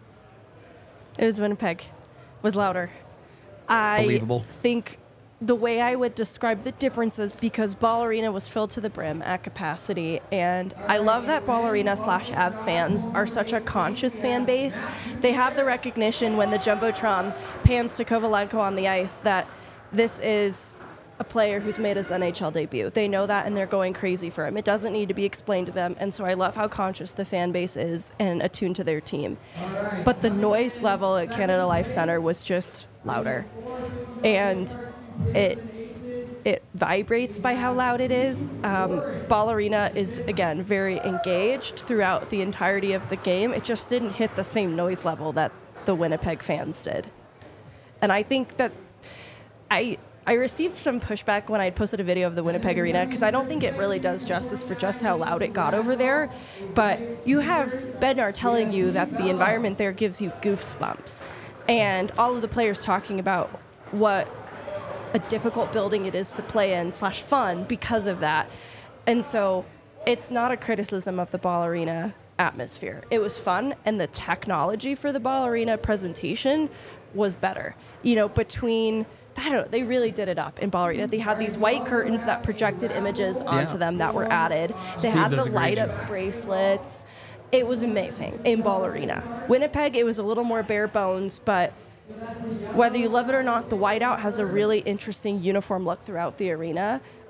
It was Winnipeg. Was louder. I Believable. think the way I would describe the differences, because Ball Arena was filled to the brim at capacity, and I love that Ball Arena slash Avs fans are such a conscious fan base. They have the recognition when the Jumbotron pans to Kovalenko on the ice that this is a player who's made his N H L debut. They know that, and they're going crazy for him. It doesn't need to be explained to them, and so I love how conscious the fan base is and attuned to their team. But the noise level at Canada Life Center was just louder, and it it vibrates by how loud it is. Um, Ball Arena is, again, very engaged throughout the entirety of the game. It just didn't hit the same noise level that the Winnipeg fans did. And I think that I I received some pushback when I posted a video of the Winnipeg Arena, because I don't think it really does justice for just how loud it got over there. But you have Bednar telling you that the environment there gives you goosebumps, and all of the players talking about what a difficult building it is to play in slash fun because of that. And so it's not a criticism of the Ball Arena atmosphere. It was fun, and the technology for the Ball Arena presentation was better. You know, between I don't know, they really did it up in Ball Arena. They had these white curtains that projected images onto Yeah. them that were added. They Steve had does the a great light up job. bracelets. It was amazing in Ball Arena. Winnipeg, it was a little more bare bones, but whether you love it or not, the whiteout has a really interesting uniform look throughout the arena.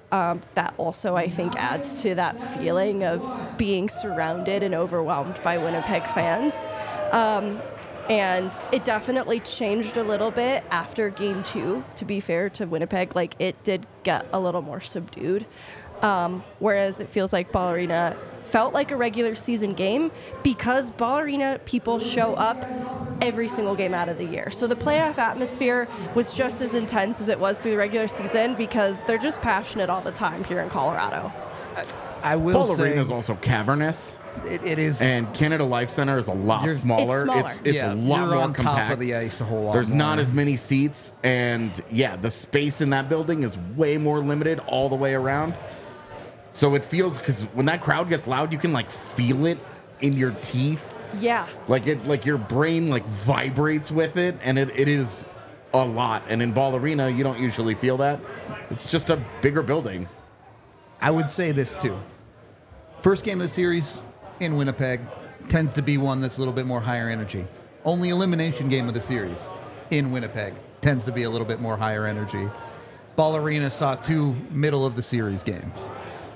Um, that also, I think, adds to that feeling of being surrounded and overwhelmed by Winnipeg fans. Um, and it definitely changed a little bit after game two, to be fair to Winnipeg. Like, it did get a little more subdued. Um, whereas it feels like Ball Arena felt like a regular season game because Ball Arena people show up every single game out of the year. So the playoff atmosphere was just as intense as it was through the regular season because they're just passionate all the time here in Colorado. I will Ball say Arena is also cavernous, it, it is. and Canada Life Center is a lot You're- smaller. It's smaller. It's, it's yeah, a lot you're more on compact. top of the ice a whole lot. There's more. not as many seats, and yeah, the space in that building is way more limited all the way around. So it feels, because when that crowd gets loud, you can like feel it in your teeth. Yeah. Like it, like your brain like vibrates with it, and it, it is a lot. And in Ball Arena, you don't usually feel that. It's just a bigger building. I would say this too. First game of the series in Winnipeg tends to be one that's a little bit more higher energy. Only elimination game of the series in Winnipeg tends to be a little bit more higher energy. Ball Arena saw two middle of the series games.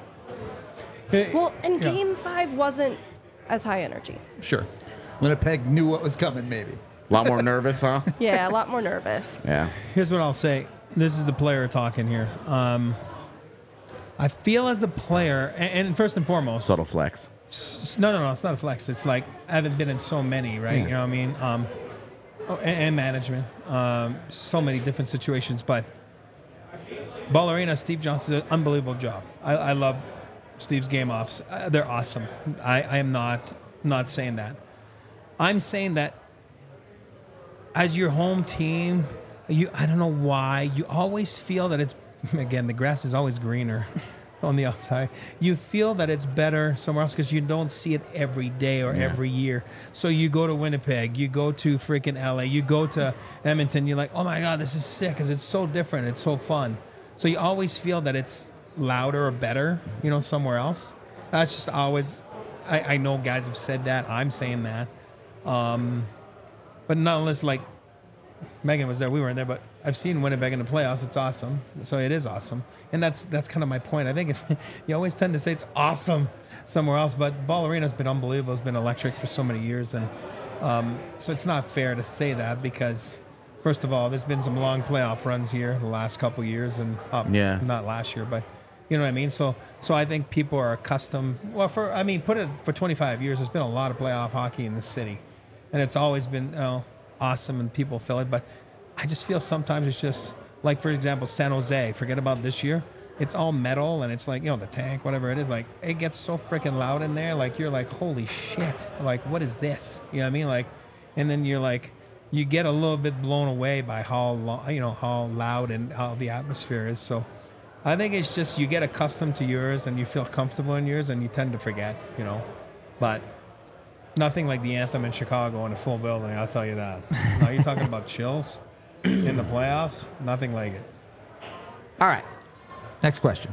Well, and Yeah. game five wasn't as high energy. Sure. Winnipeg knew what was coming, maybe. A lot more nervous, huh? Yeah, a lot more nervous. Yeah. Here's what I'll say. This is the player talking here. Um, I feel as a player, and, and first and foremost, Subtle flex. s- no, no, no, it's not a flex. It's like I haven't been in so many, right? Yeah. You know what I mean? Um, oh, and, and management, um, so many different situations. But Ball Arena, Steve Johnson did an unbelievable job. I, I love Steve's game ops. Uh, they're awesome. I, I am not not saying that. I'm saying that as your home team, you I don't know why you always feel that it's again the grass is always greener on the outside. You feel that it's better somewhere else because you don't see it every day or Yeah. every year. So you go to Winnipeg, you go to freaking L A, you go to Edmonton. You're like, oh my god, this is sick because it's so different. It's so fun. So you always feel that it's louder or better, you know, somewhere else. That's just always. I, I know guys have said that. I'm saying that. Um, but not unless like Megan was there, we weren't there. But I've seen Winnipeg in the playoffs. It's awesome. So it is awesome, and that's that's kind of my point. I think it's you always tend to say it's awesome somewhere else, but Ball Arena's been unbelievable. It's been electric for so many years, and um, so it's not fair to say that because first of all, there's been some long playoff runs here the last couple years, and uh, Yeah. not last year, but. You know what I mean? So, so I think people are accustomed. Well, for I mean, put it for twenty-five years. There's been a lot of playoff hockey in this city, and it's always been you know, awesome, and people feel it. But I just feel sometimes it's just like, for example, San Jose. Forget about this year. It's all metal, and it's like you know the tank, whatever it is. Like it gets so freaking loud in there. Like you're like, holy shit! Like what is this? You know what I mean? Like, and then you're like, you get a little bit blown away by how lo- you know how loud and how the atmosphere is. So. I think it's just you get accustomed to yours and you feel comfortable in yours and you tend to forget, you know. But nothing like the anthem in Chicago in a full building, I'll tell you that. Now you're talking about chills in the playoffs, nothing like it. All right. Next question.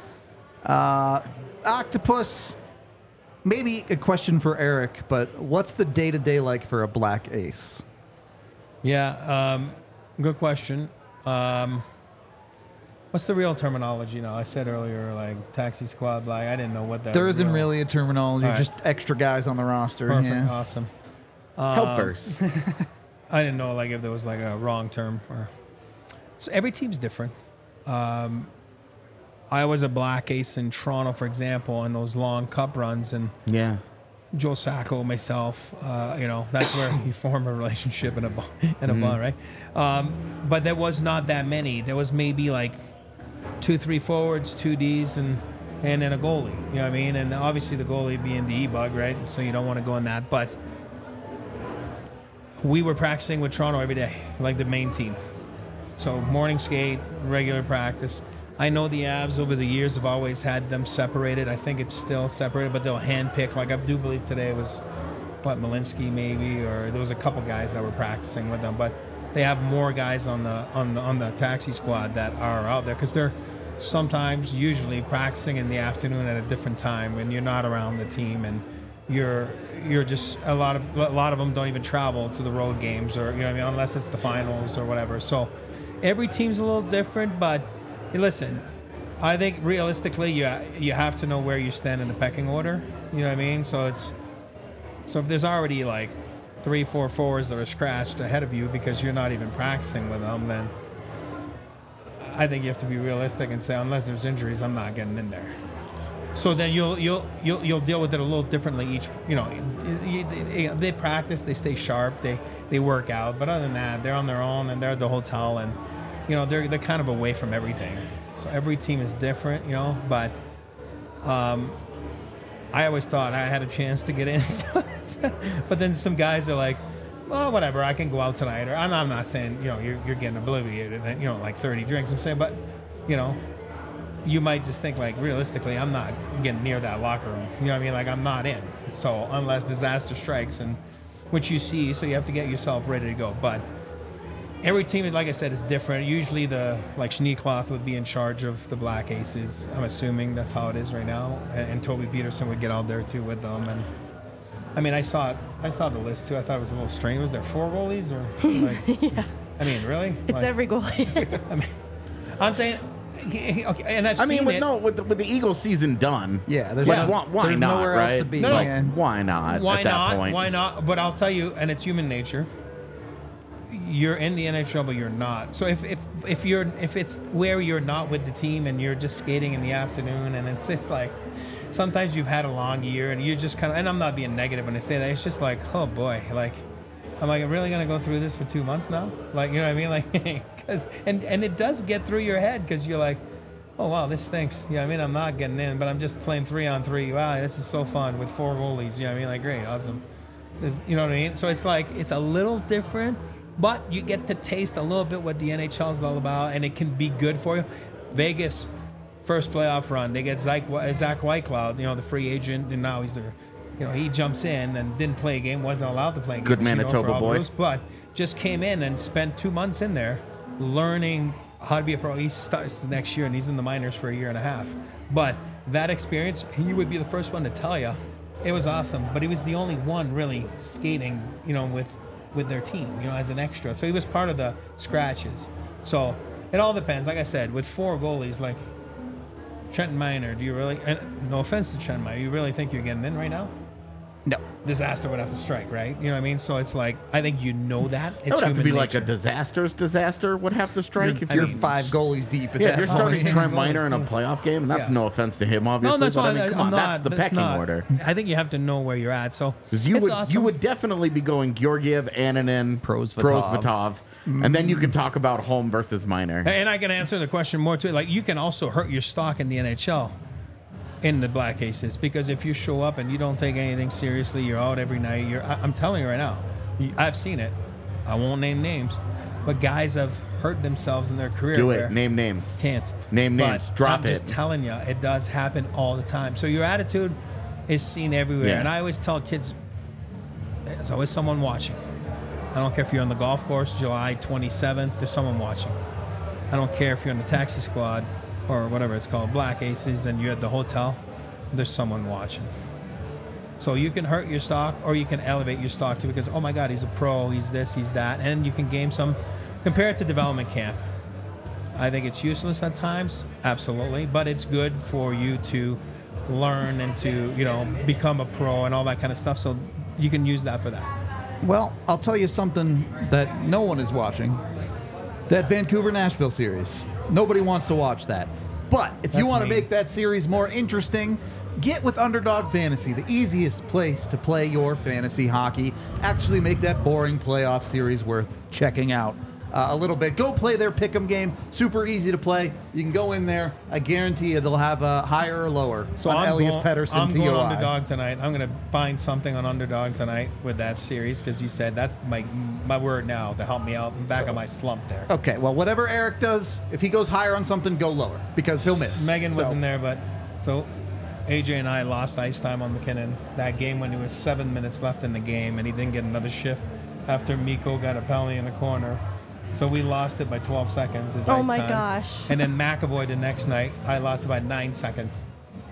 Uh, Octopus, maybe a question for Eric, but what's the day-to-day like for a black ace? Yeah, um, good question. Um, what's the real terminology now? I said earlier, like taxi squad black. I didn't know what that There was. isn't really a terminology, All right. just extra guys on the roster. Perfect, Yeah. awesome. Helpers. I didn't know like if there was like a wrong term or. So every team's different. Um, I was a black ace in Toronto, for example, in those long cup runs, and yeah. Joe Sacco, myself, uh, you know, that's where you form a relationship in a ball, in a ball, right? Um, but there was not that many. There was maybe like two, three forwards, two Ds, and and then a goalie. You know what I mean? And obviously the goalie being the E-bug, right? So you don't want to go in that. But we were practicing with Toronto every day, like the main team. So morning skate, regular practice. I know the Avs over the years have always had them separated. I think it's still separated, but they'll handpick. Like I do believe today was, what, Malinsky maybe, or there was a couple guys that were practicing with them. But they have more guys on the on the on the taxi squad that are out there because they're sometimes, usually, practicing in the afternoon at a different time when you're not around the team and you're you're just a lot of a lot of them don't even travel to the road games or you know what I mean unless it's the finals or whatever. So every team's a little different, but hey, listen, I think realistically, you you have to know where you stand in the pecking order. You know what I mean? So it's so if there's already like three, four forwards that are scratched ahead of you because you're not even practicing with them, then I think you have to be realistic and say, unless there's injuries, I'm not getting in there. So then you'll you'll you'll you'll deal with it a little differently each. You know, you, they, they practice, they stay sharp, they they work out. But other than that, they're on their own and they're at the hotel, and you know they're they're kind of away from everything. So every team is different, you know. But um, I always thought I had a chance to get in, but then some guys are like, well, whatever, I can go out tonight. Or I'm, I'm not saying you know you're you're getting obliviated, and you know like thirty drinks. I'm saying, but you know. You might just think, like, realistically, I'm not getting near that locker room. You know what I mean? Like, I'm not in. So, unless disaster strikes, and which you see, so you have to get yourself ready to go. But every team, like I said, is different. Usually, the, like, Schneekloth would be in charge of the Black Aces. I'm assuming that's how it is right now. And, and Toby Peterson would get out there, too, with them. And, I mean, I saw it. I saw the list, too. I thought it was a little strange. Was there four goalies? Or, like, yeah. I mean, really? It's like, every goalie. I mean, I'm saying... Okay, and I've I mean, seen with it. no, with the, with the Eagles season done. Yeah, there's, like, no, why, why there's not? nowhere right? else to be. No, no. Like, Yeah. why not? Why at that not? point? Why not? But I'll tell you, and it's human nature. You're in the N H L, but you're not. So if if if you're if it's where you're not with the team and you're just skating in the afternoon, and it's it's like sometimes you've had a long year and you're just kind of. And I'm not being negative when I say that. It's just like, oh boy, like. I'm like, I'm really gonna go through this for two months now? Like, you know what I mean? Like, because and and it does get through your head because you're like. Oh, wow, this stinks. You know what I mean? I'm not getting in, but I'm just playing three on three. Wow, this is so fun with four goalies. You know what I mean? Like, great, awesome. There's, you know what I mean? So it's like, it's a little different, but you get to taste a little bit what the N H L is all about, and it can be good for you. Vegas, first playoff run, they get Zach, Zach Whitecloud, you know, the free agent, and now he's the, you know, he jumps in and didn't play a game, wasn't allowed to play a game. Good Manitoba boy. Blues, but just came in and spent two months in there learning how to be a pro. He starts next year, and he's in the minors for a year and a half. But that experience, he would be the first one to tell you, it was awesome. But he was the only one really skating, you know, with with their team, you know, as an extra. So he was part of the scratches. So it all depends. Like I said, with four goalies, like Trent Miner, do you really? And no offense to Trent Miner, you really think you're getting in right now? No. Disaster would have to strike, right? You know what I mean? So it's like, I think you know that. It's It would have to be human like a nature. disaster's disaster would have to strike. If You're you're five goalies deep at yeah, that if you're point. starting Trent Miner in a playoff game, and that's Yeah. no offense to him, obviously. No, that's but why I mean, come I'm on, not, that's the that's pecking not. order. I think you have to know where you're at. So Because you it's would awesome. you would definitely be going Georgiev, Annunen, Prosvetov. Prosvetov, and then you can talk about home versus Miner. And I can answer the question more too. Like, you can also hurt your stock in the N H L in the Black Aces, because if you show up and you don't take anything seriously, you're out every night. You're. I, I'm telling you right now, I've seen it. I won't name names, but guys have hurt themselves in their career. Do where- it. Name names. Can't Name But names. Drop I'm it. just telling you, it does happen all the time. So your attitude is seen everywhere. Yeah. And I always tell kids, there's always someone watching. I don't care if you're on the golf course, July twenty-seventh, there's someone watching. I don't care if you're on the taxi squad or whatever it's called, Black Aces, and you're at the hotel, there's someone watching. So you can hurt your stock, or you can elevate your stock too, because, oh my God, he's a pro, he's this, he's that, and you can gain some. Compare it to development camp. I think it's useless at times, absolutely, but it's good for you to learn and to, you know, become a pro and all that kind of stuff. So you can use that for that. Well, I'll tell you something that no one is watching. That Vancouver-Nashville series. Nobody wants to watch that. But if you That's want to me. make that series more interesting, get with Underdog Fantasy, the easiest place to play your fantasy hockey. Actually make that boring playoff series worth checking out uh, a little bit. Go play their pick'em game. Super easy to play. You can go in there. I guarantee you they'll have a higher or lower So on I'm Elias going, Pettersson I'm T going O I. Underdog tonight. I'm going to find something on Underdog tonight with that series, because you said that's my my word now to help me out and back on my slump there. Okay, well, whatever Eric does, if he goes higher on something, go lower, because he'll miss. Megan So- wasn't there, but so A J and I lost ice time on McKinnon that game when there was seven minutes left in the game, and he didn't get another shift after Mikko got a penalty in the corner. So we lost it by twelve seconds. His Oh ice my time. gosh. And then McAvoy the next night, I lost it by nine seconds.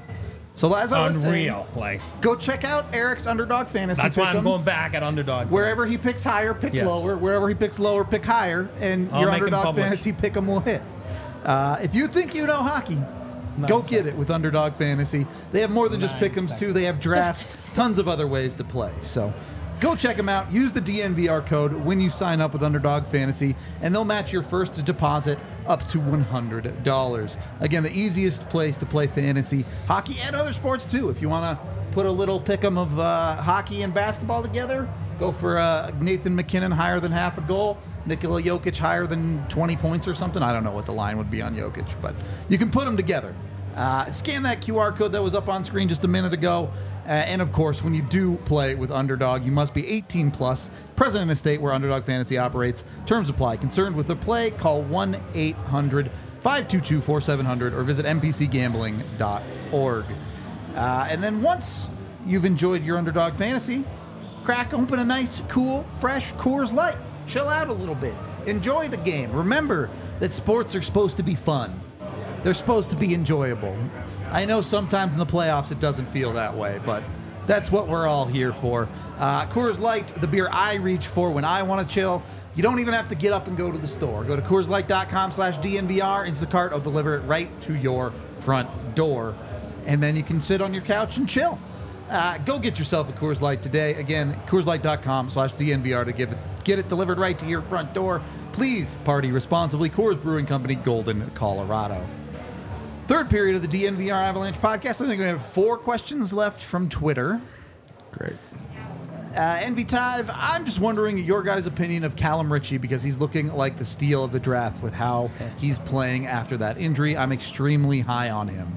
So as I was Unreal. saying, Like, go check out Eric's Underdog Fantasy. that's why I'm Pick'em. going back at Underdog. Wherever he picks higher, pick Yes. lower. Wherever he picks lower, pick higher. And I'll your make 'em Underdog public. Fantasy pick 'em will hit. Uh, if you think you know hockey, Go get it with Underdog Fantasy. They have more than just Nine pick'ems, too. seconds. They have drafts, tons of other ways to play. So go check them out. Use the D N V R code when you sign up with Underdog Fantasy, and they'll match your first deposit up to one hundred dollars. Again, the easiest place to play fantasy, hockey, and other sports, too. If you want to put a little pick'em of uh, hockey and basketball together, go for uh, Nathan McKinnon higher than half a goal. Nikola Jokic higher than twenty points or something. I don't know what the line would be on Jokic, but you can put them together. Uh, scan that Q R code that was up on screen just a minute ago. Uh, and of course, when you do play with Underdog, you must be eighteen plus, present in a state where Underdog Fantasy operates. Terms apply. Concerned with the play, call one eight hundred five two two four seven zero zero or visit n p c gambling dot org. Uh, and then once you've enjoyed your Underdog Fantasy, crack open a nice, cool, fresh Coors Light. Chill out a little bit. Enjoy the game. Remember that sports are supposed to be fun. They're supposed to be enjoyable. I know sometimes in the playoffs it doesn't feel that way, but that's what we're all here for. Uh, Coors Light, the beer I reach for when I want to chill. You don't even have to get up and go to the store. Go to Coors Light dot com slash D N V R. Instacart will deliver it right to your front door. And then you can sit on your couch and chill. Uh, go get yourself a Coors Light today. Again, Coors Light dot com slash D N V R to give it, get it delivered right to your front door. Please party responsibly. Coors Brewing Company, Golden, Colorado. Third period of the D N V R Avalanche podcast. I think we have four questions left from Twitter. Great. Uh, N B Tive, I'm just wondering your guys' opinion of Callum Ritchie because he's looking like the steal of the draft with how he's playing after that injury. I'm extremely high on him.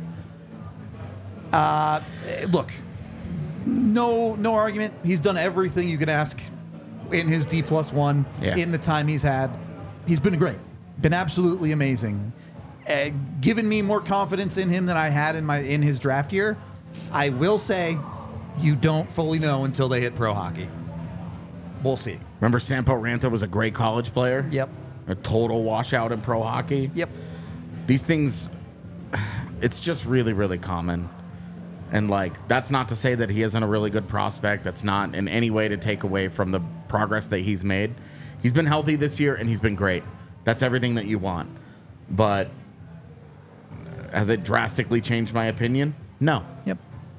Uh, look, no, no argument. He's done everything you could ask in his D plus one Yeah. in the time he's had. He's been great, been absolutely amazing. Uh, given me more confidence in him than I had in my in his draft year. I will say, you don't fully know until they hit pro hockey. We'll see. Remember Sampo Ranta was a great college player? Yep. A total washout in pro hockey? Yep. These things, it's just really, really common. And, like, that's not to say that he isn't a really good prospect. That's not in any way to take away from the progress that he's made. He's been healthy this year, and he's been great. That's everything that you want. But has it drastically changed my opinion? No. Yep.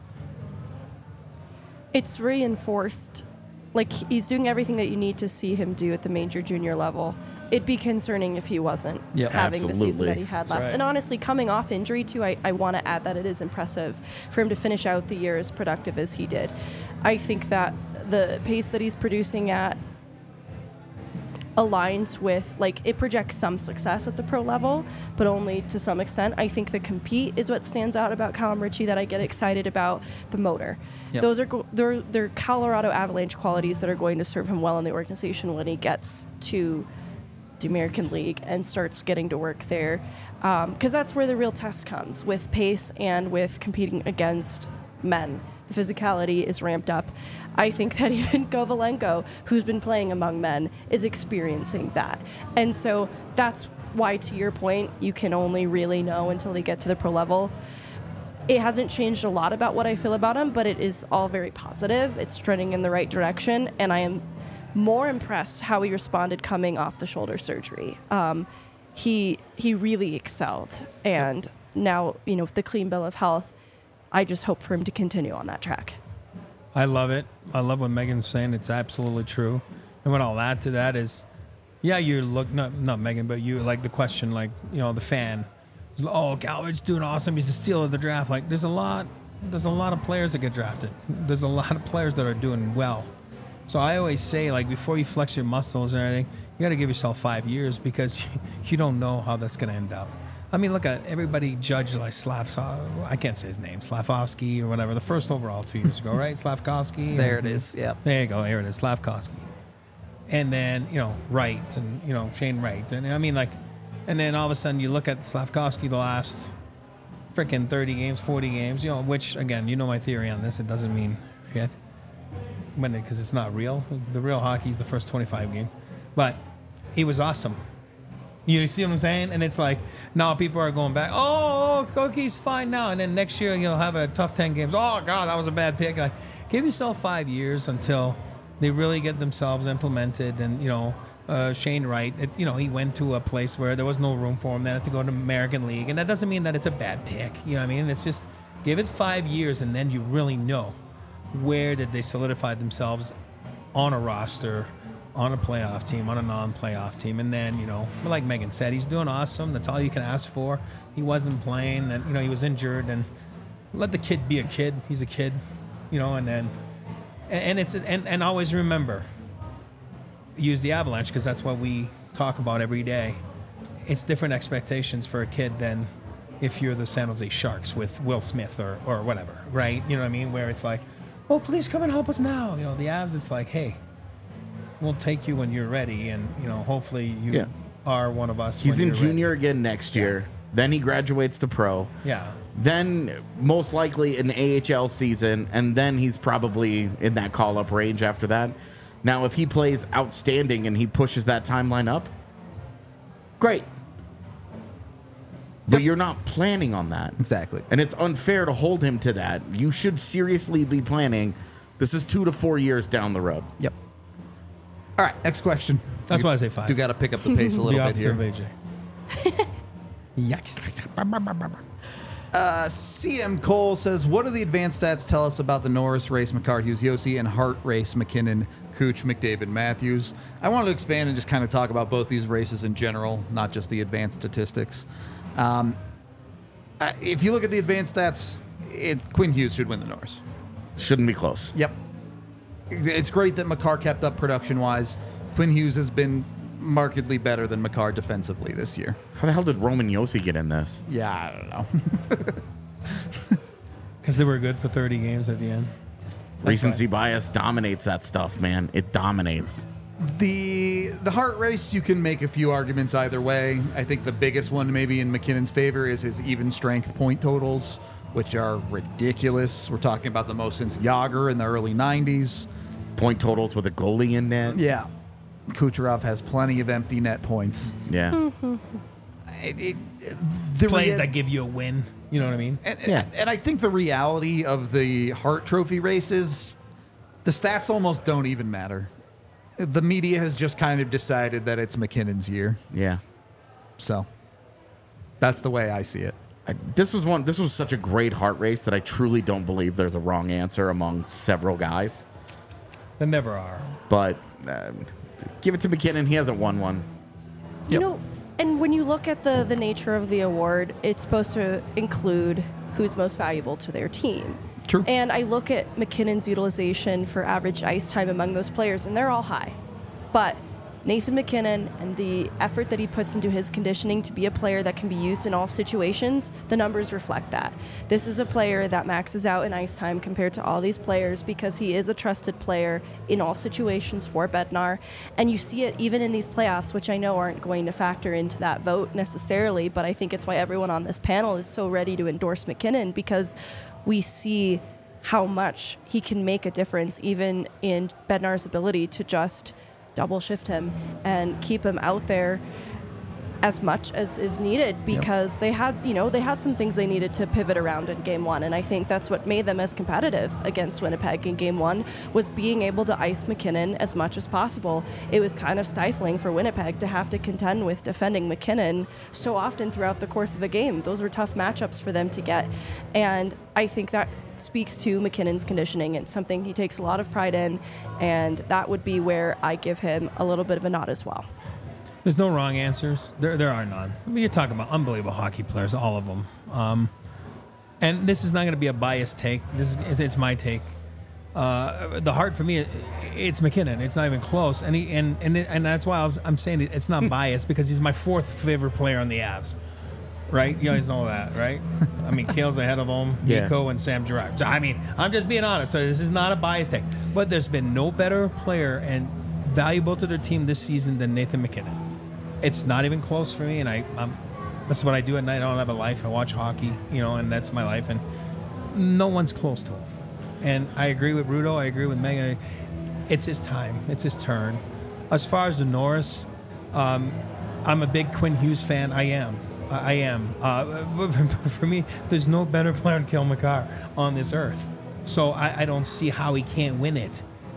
It's reinforced. Like, he's doing everything that you need to see him do at the major junior level. It'd be concerning if he wasn't Yeah, having the season absolutely. that he had That's last. right. And honestly, coming off injury, too, I, I want to add that it is impressive for him to finish out the year as productive as he did. I think that the pace that he's producing at aligns with, like, it projects some success at the pro level, but only to some extent. I think the compete is what stands out about Callum Ritchie that I get excited about, the motor. Yep. Those are go- they're, they're Colorado Avalanche qualities that are going to serve him well in the organization when he gets to the American League and starts getting to work there. Because that's where the real test comes, with pace and with competing against men. The physicality is ramped up. I think that even Kovalenko, who's been playing among men, is experiencing that. And so that's why, to your point, you can only really know until they get to the pro level. It hasn't changed a lot about what I feel about him, but it is all very positive. It's trending in the right direction, and I am more impressed how he responded coming off the shoulder surgery. Um, he he really excelled, and now, you know, with the clean bill of health, I just hope for him to continue on that track. I love it. I love what Megan's saying. It's absolutely true. And what I'll add to that is, yeah, you look, not, not Megan, but you, like the question, like, you know, the fan. Oh, Calvert's doing awesome. He's the steal of the draft. Like, there's a lot, there's a lot of players that get drafted. There's a lot of players that are doing well. So I always say, like, before you flex your muscles and everything, you got to give yourself five years because you don't know how that's going to end up. I mean, look at everybody judged like Slav. I can't say his name, Slavkovsky or whatever. The first overall two years ago, right? Slavkovsky. There it is. Yep. There you go. Here it is, Slavkovsky. And then, you know, Wright and, you know, Shane Wright. And I mean, like, and then all of a sudden you look at Slavkovsky the last freaking thirty games, forty games, you know, which, again, you know my theory on this. It doesn't mean shit when because it's not real. The real hockey is the first twenty-five game. But he was awesome. You see what I'm saying? And it's like, now people are going back, oh, Cookie's fine now. And then next year, you'll have a tough ten games. Oh, God, that was a bad pick. Like, give yourself five years until they really get themselves implemented and, you know, uh, Shane Wright. It, you know, he went to a place where there was no room for him. Then had to go to American League, and that doesn't mean that it's a bad pick. You know what I mean? It's just give it five years, and then you really know where did they solidify themselves on a roster, on a playoff team, on a non-playoff team. And then, you know, like Megan said, he's doing awesome. That's all you can ask for. He wasn't playing, and, you know, he was injured. And let the kid be a kid. He's a kid, you know, and then, and, and it's, and, and always remember, use the Avalanche because that's what we talk about every day. It's different expectations for a kid than if you're the San Jose Sharks with Will Smith or, or whatever, right? You know what I mean? Where it's like, oh, please come and help us now. You know, the Avs, it's like, hey, we'll take you when you're ready, and you know, hopefully you Yeah. are one of us. He's when in you're junior ready. again next year. Then he graduates to pro. Yeah, Then most likely an A H L season, and then he's probably in that call-up range after that. Now, if he plays outstanding and he pushes that timeline up, great. But you're not planning on that. Exactly. And it's unfair to hold him to that. You should seriously be planning. This is two to four years down the road. Yep. All right, next question. that's You- why I say five. You got to pick up the pace a the little bit opposite here. of A J. Yikes! Uh, C M Cole says, what do the advanced stats tell us about the Norris race, Makar Hughes, Yossi, and Hart race, McKinnon, Cooch, McDavid, Matthews? I wanted to expand and just kind of talk about both these races in general, not just the advanced statistics. Um, uh, if you look at the advanced stats, it, Quinn Hughes should win the Norris. Shouldn't be close. Yep. It's great that Makar kept up production-wise. Quinn Hughes has been markedly better than Makar defensively this year. How the hell did Roman Yossi get in this? Yeah, I don't know. Because they were good for thirty games at the end. Recency bias dominates that stuff, man. It dominates. The the Hart race, you can make a few arguments either way. I think the biggest one maybe in McKinnon's favor is his even strength point totals, which are ridiculous. We're talking about the most since Yager in the early nineties. Point totals with a goalie in net. Yeah. Kucherov has plenty of empty net points. Yeah. It, it, the Plays rea- that give you a win. You know what I mean? and, Yeah. and I think the reality of the Hart Trophy races, the stats almost don't even matter. The media has just kind of decided that it's McKinnon's year. Yeah. So that's the way I see it. I, this was one. This was such a great heart race that I truly don't believe there's a wrong answer among several guys. There never are. But um, give it to McKinnon. He hasn't won one. You Yep. know, and when you look at the the nature of the award, it's supposed to include who's most valuable to their team. True. And I look at McKinnon's utilization for average ice time among those players, and they're all high. But Nathan McKinnon and the effort that he puts into his conditioning to be a player that can be used in all situations, the numbers reflect that. This is a player that maxes out in ice time compared to all these players because he is a trusted player in all situations for Bednar. And you see it even in these playoffs, which I know aren't going to factor into that vote necessarily, but I think it's why everyone on this panel is so ready to endorse McKinnon, because we see how much he can make a difference even in Bednar's ability to just double shift him and keep him out there as much as is needed, because yep. they had, you know, they had some things they needed to pivot around in game one. And I think that's what made them as competitive against Winnipeg in game one, was being able to ice McKinnon as much as possible. It was kind of stifling for Winnipeg to have to contend with defending McKinnon so often throughout the course of a game. Those were tough matchups for them to get. And I think that speaks to McKinnon's conditioning. It's something he takes a lot of pride in, and that would be where I give him a little bit of a nod as well. There's no wrong answers. There, there are none. I mean, you're talking about unbelievable hockey players, all of them. Um, and this is not going to be a biased take. This is it's my take. Uh, the Hart for me, it's McKinnon. It's not even close, and he and and it, and that's why I'm saying it's not biased, because he's my fourth favorite player on the Avs. Right? You guys know that, right? I mean, Kale's ahead of him, Yeah. Nico and Sam Girard. So, I mean, I'm just being honest. So this is not a biased take. But there's been no better player and valuable to their team this season than Nathan McKinnon. It's not even close for me, and I, I'm, that's what I do at night. I don't have a life. I watch hockey, you know, and that's my life. And no one's close to him. And I agree with Rudo. I agree with Megan. It's his time. It's his turn. As far as the Norris, um, I'm a big Quinn Hughes fan. I am. I am. Uh, for me, there's no better player than Cale Makar on this earth. So I, I don't see how he can't win it.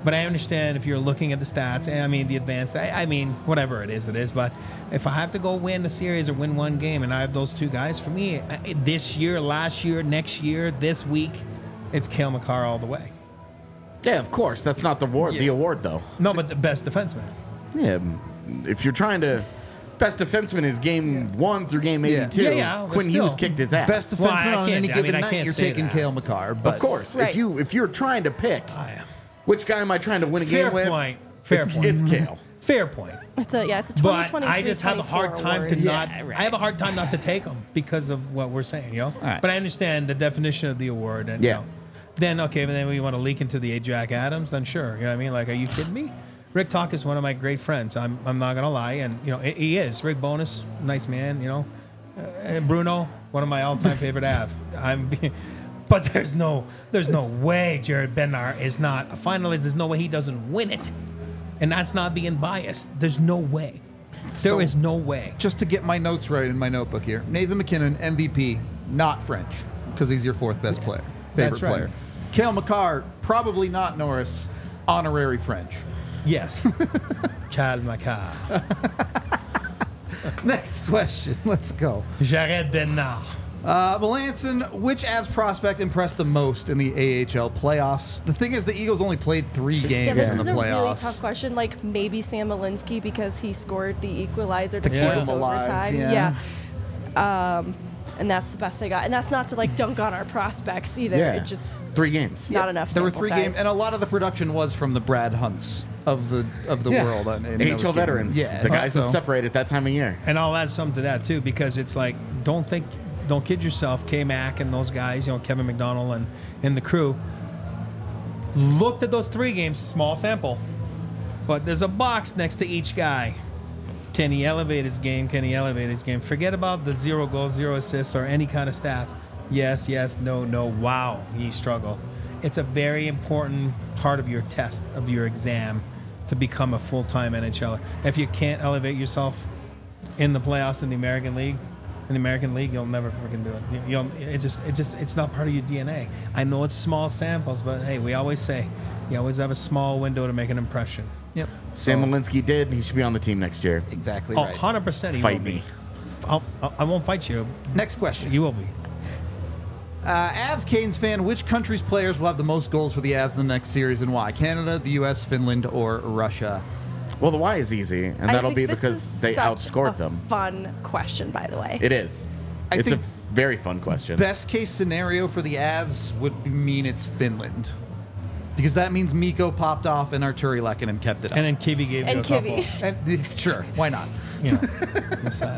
But I understand if you're looking at the stats, I mean, the advanced, I, I mean, whatever it is, it is. But if I have to go win a series or win one game and I have those two guys, for me, I- this year, last year, next year, this week, it's Cale Makar all the way. Yeah, of course. That's not the award, the award though. No, but the best defenseman. Yeah, if you're trying to, best defenseman is game one through game Yeah. eighty-two. Yeah, yeah, but Quinn still. Hughes kicked his ass. Best defenseman Well, I on can't- any I given mean, I night, can't you're say taking that. Cale Makar. But Of course, Right. if you if you're trying to pick, I am. which guy am I trying to win a Fair game with? point. Fair it's, point. It's Cale. Fair point. It's a yeah, it's a But twenty twenty-three I just have a hard time to award. not. Yeah, right. I have a hard time not to take them because of what we're saying, you know. right. But I understand the definition of the award, and Yeah. you know, then okay, but then we want to leak into the A. Jack Adams, then sure, you know what I mean? Like, are you kidding me? Rick Talk is one of my great friends. I'm I'm not gonna lie, and you know he he is. Rick Bonus, nice man, you know. Uh, and Bruno, one of my all-time favorite Av. I'm. But there's no, there's no way Jared Bednar is not a finalist. There's no way he doesn't win it, and that's not being biased. There's no way. There is So- no way. just to get my notes right in my notebook here, Nathan McKinnon, M V P, not French, because he's your fourth best player, favorite That's right. player. Cale Makar, probably not Norris, honorary French. Yes. Cal Makar. Next question. Let's go. Jared Bednar. Uh, Melanson, which Avs prospect impressed the most in the A H L playoffs? The thing is, the Eagles only played three Yeah, games this in is the a really playoffs. tough question. Like maybe Sam Malinsky because he scored the equalizer to To keep keep us him alive, overtime. yeah. Yeah. Um, and that's the best I got. And that's not to like dunk on our prospects either. Yeah, It just three games. not enough. There were sample three size. games, and a lot of the production was from the Brad Hunts of the of the Yeah. world. in- in A H L those games. veterans. Yeah, the guys that so- separate at that time of year. And I'll add something to that too, because it's like, don't think, don't kid yourself. K Mac and those guys, you know, Kevin McDonald and, and the crew looked at those three games, small sample, but there's a box next to each guy. Can he elevate his game? Can he elevate his game? Forget about the zero goals, zero assists, or any kind of stats. Yes, yes, no, no. Wow, ye struggle. It's a very important part of your test, of your exam, to become a full-time N H L er. If you can't elevate yourself in the playoffs in the American League, in the American League, you'll never freaking do it. You, you'll, it just, it just, it's not part of your D N A. I know it's small samples, but hey, we always say, you always have a small window to make an impression. Yep. Sam Malinsky did. He should be on the team next year. Exactly Oh, right. one hundred percent he Fight will be. me. I'll, I'll, I won't fight you. Next question. You will be. Uh, Avs Canes fan, which country's players will have the most goals for the Avs in the next series and why? Canada, the U S, Finland, or Russia? Well, the why is easy, and I that'll think be this because is they such outscored a them. Fun question, by the way. It is. I it's a think very fun question. Best case scenario for the Avs would be- mean it's Finland. Because that means Mikko popped off and Arturi Lehkonen kept it up. And then Kivy gave And you a couple. Kivy. And, uh, sure, why not? You know, it's, uh,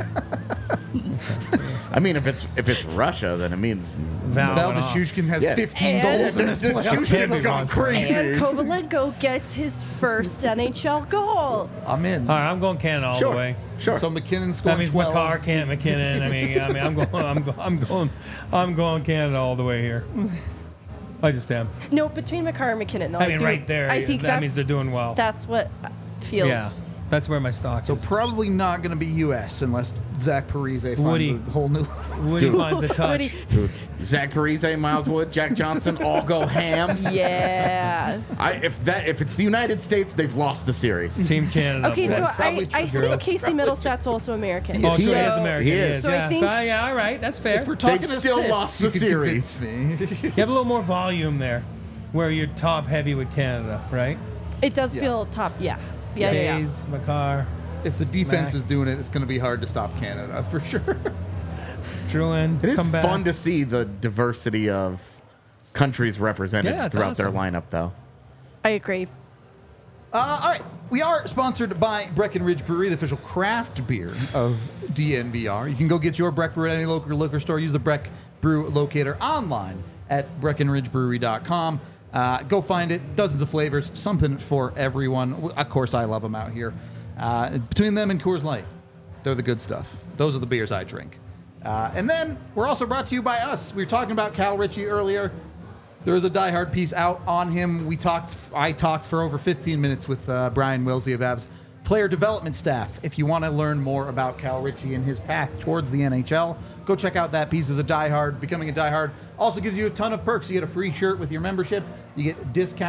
I mean, if it's if it's Russia, then it means Val Val went off. Nichushkin has Yeah. fifteen And- goals in this The playoff. Nichushkin has Kevin gone wants crazy. And Kovalenko gets his first N H L goal. I'm in. All right, I'm going Canada all Sure. the way. Sure. So McKinnon scored That means twelve. McCarr can't McKinnon. I mean, I mean, I'm going, I'm going, I'm going, I'm going Canada all the way here. I just am. No, between McCarr and McKinnon. No, I mean, do- right there, I think that that's, means they're doing well. That's what feels. Yeah, that's where my stock So is. probably not going to be U S unless Zach Parise finds Woody. a whole new. Woody finds a touch. Woody- Dude, Zach Parise, Miles Wood, Jack Johnson, all go ham. Yeah. I, if that if it's the United States, they've lost the series. Team Canada. Okay, so That's probably I, I true, think girls. Casey Middlestat's also American. Oh, He sure, he is. is American. He He is. is. So I yeah. think- so, yeah, all right, that's fair. If we're talking They've still assists, lost you the could series. convince me. You have a little more volume there, where you're top heavy with Canada, right? It does Yeah. feel top. Yeah. Yeah, yeah, yeah. Tays, McCarr, If the defense Mac. is doing it, it's going to be hard to stop Canada for sure. Drouin, It is come back. fun to see the diversity of countries represented Yeah, it's throughout awesome. their lineup, though. I agree. Uh, all right, we are sponsored by Breckenridge Brewery, the official craft beer of D N V R. You can go get your Breck Brew at any local liquor store. Use the Breck Brew locator online at breckenridge brewery dot com. Uh, go find it. Dozens of flavors, something for everyone. Of course, I love them out here. Uh, between them and Coors Light, they're the good stuff. Those are the beers I drink. Uh, and then we're also brought to you by us. We were talking about Cal Ritchie earlier. There was a Die Hard piece out on him. We talked. I talked for over fifteen minutes with uh, Brian Wilsey of Avs player development staff. If you want to learn more about Cal Ritchie and his path towards the N H L, go check out that piece as a Die Hard. Becoming a Die Hard also gives you a ton of perks. You get a free shirt with your membership. You get discounts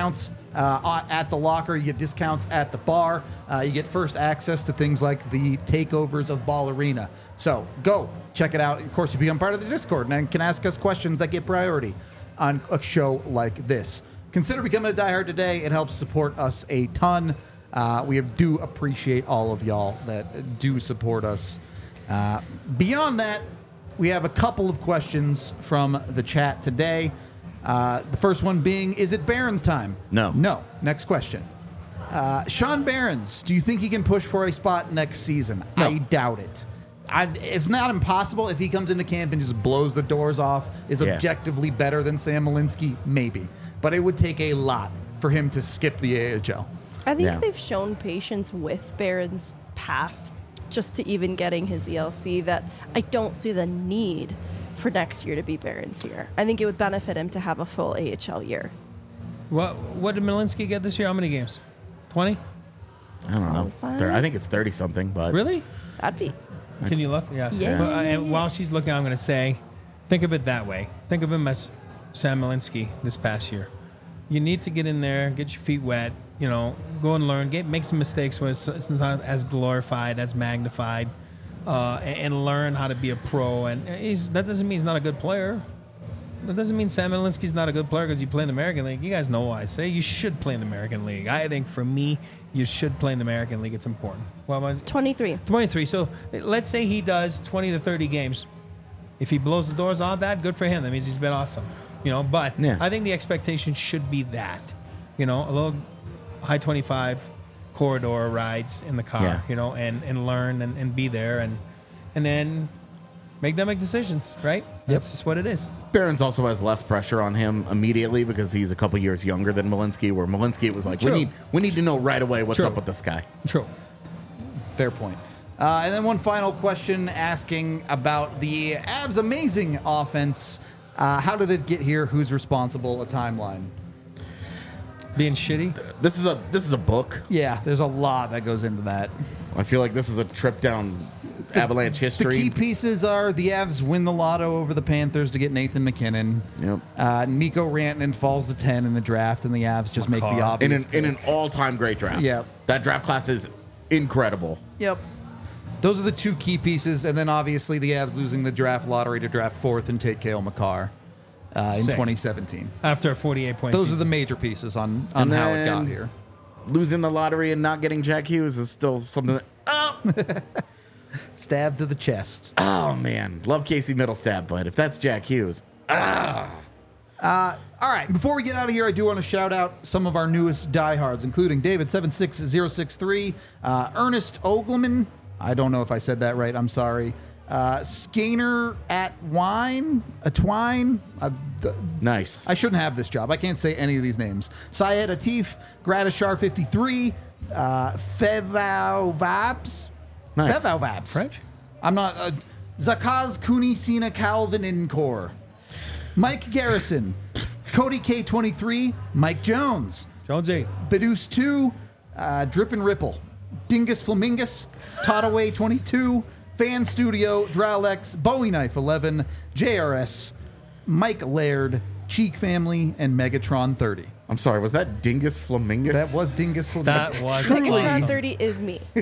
uh, at the locker. You get discounts at the bar. Uh, you get first access to things like the takeovers of Ball Arena. So go check it out. Of course, you become part of the Discord and can ask us questions that get priority on a show like this. Consider becoming a diehard today. It helps support us a ton. Uh, we do appreciate all of y'all that do support us. Uh, beyond that, we have a couple of questions from the chat today. Uh, the first one being, is it Barron's time? No. No. Next question. Uh, Sean Barron's, do you think he can push for a spot next season? No. I doubt it. I, it's not impossible if he comes into camp and just blows the doors off, is Yeah. objectively better than Sam Malinsky, maybe. But it would take a lot for him to skip the A H L. I think Yeah. they've shown patience with Barron's path just to even getting his E L C that I don't see the need for next year to be Barron's year. I think it would benefit him to have a full A H L year. What what did Malinsky get this year? How many games? twenty? I don't know. Qualified? Thir- I think it's thirty something, but Really? That'd be. Can you look? Yeah. Yeah. Well, and while she's looking, I'm going to say, think of it that way. Think of him as Sam Malinsky this past year. You need to get in there, get your feet wet, you know, go and learn, get make some mistakes when it's, it's not as glorified, as magnified, uh, and, and learn how to be a pro. And he's, that doesn't mean he's not a good player. That doesn't mean Sam Malinsky's not a good player because you play in the American League. You guys know what I say. You should play in the American League. I think for me, you should play in the American League. It's important. Well, my, twenty-three. twenty-three. So let's say he does twenty to thirty games. If he blows the doors off that, good for him. That means he's been awesome. You know, but Yeah. I think the expectation should be that. You know, a little high twenty-five corridor rides in the car, Yeah. you know, and, and learn and, and be there and and then make them make decisions, right? That's just what it is. Barron's also has less pressure on him immediately because he's a couple years younger than Malinsky, where Malinsky was like, we True. need we need to know right away what's True. up with this guy. True. Fair point. Uh, and then one final question asking about the Avs' amazing offense. Uh, how did it get here? Who's responsible? A timeline. Being shitty. This is a this is a book. Yeah, there's a lot that goes into that. I feel like this is a trip down Avalanche The history. key pieces are the Avs win the lotto over the Panthers to get Nathan McKinnon. Yep. Uh, Mikko Rantanen falls to ten in the draft, and the Avs just make the McCarr. obvious. in an in an pick. all time great draft. Yep. That draft class is incredible. Yep. Those are the two key pieces, and then obviously the Avs losing the draft lottery to draft fourth and take Cale Makar uh, in Sick. twenty seventeen. After a forty-eight point Those season. are the major pieces on, on And how it got then- here. Losing the lottery and not getting Jack Hughes is still something that, oh, Stab to the chest. oh man. Love Casey Middlestat, but if that's Jack Hughes, ah. All right, before we get out of here, I do want to shout out some of our newest diehards, including David seven six zero six three, uh, Ernest Ogleman. I don't know if I said that right. I'm sorry. Uh, Skaner at Wine, a Twine. Uh, th- Nice. I shouldn't have this job. I can't say any of these names. Syed Atif, Gratishar fifty-three, uh, Fevau Vabs. Nice. Fevau Vabs. French? I'm not. Uh, Zakaz Kuni Sina Calvin Incor. Mike Garrison. Cody K twenty-three. Mike Jones. Jonesy. Bedus two. Uh, Drip and Ripple. Dingus Flamingus. Tottaway twenty-two. Fan Studio. Dralex. Bowie Knife eleven. J R S. Mike Laird. Cheek Family. And Megatron thirty. I'm sorry, was that Dingus Flamingus? That was Dingus Flamingus. That was Truly. Megatron awesome. thirty is me. a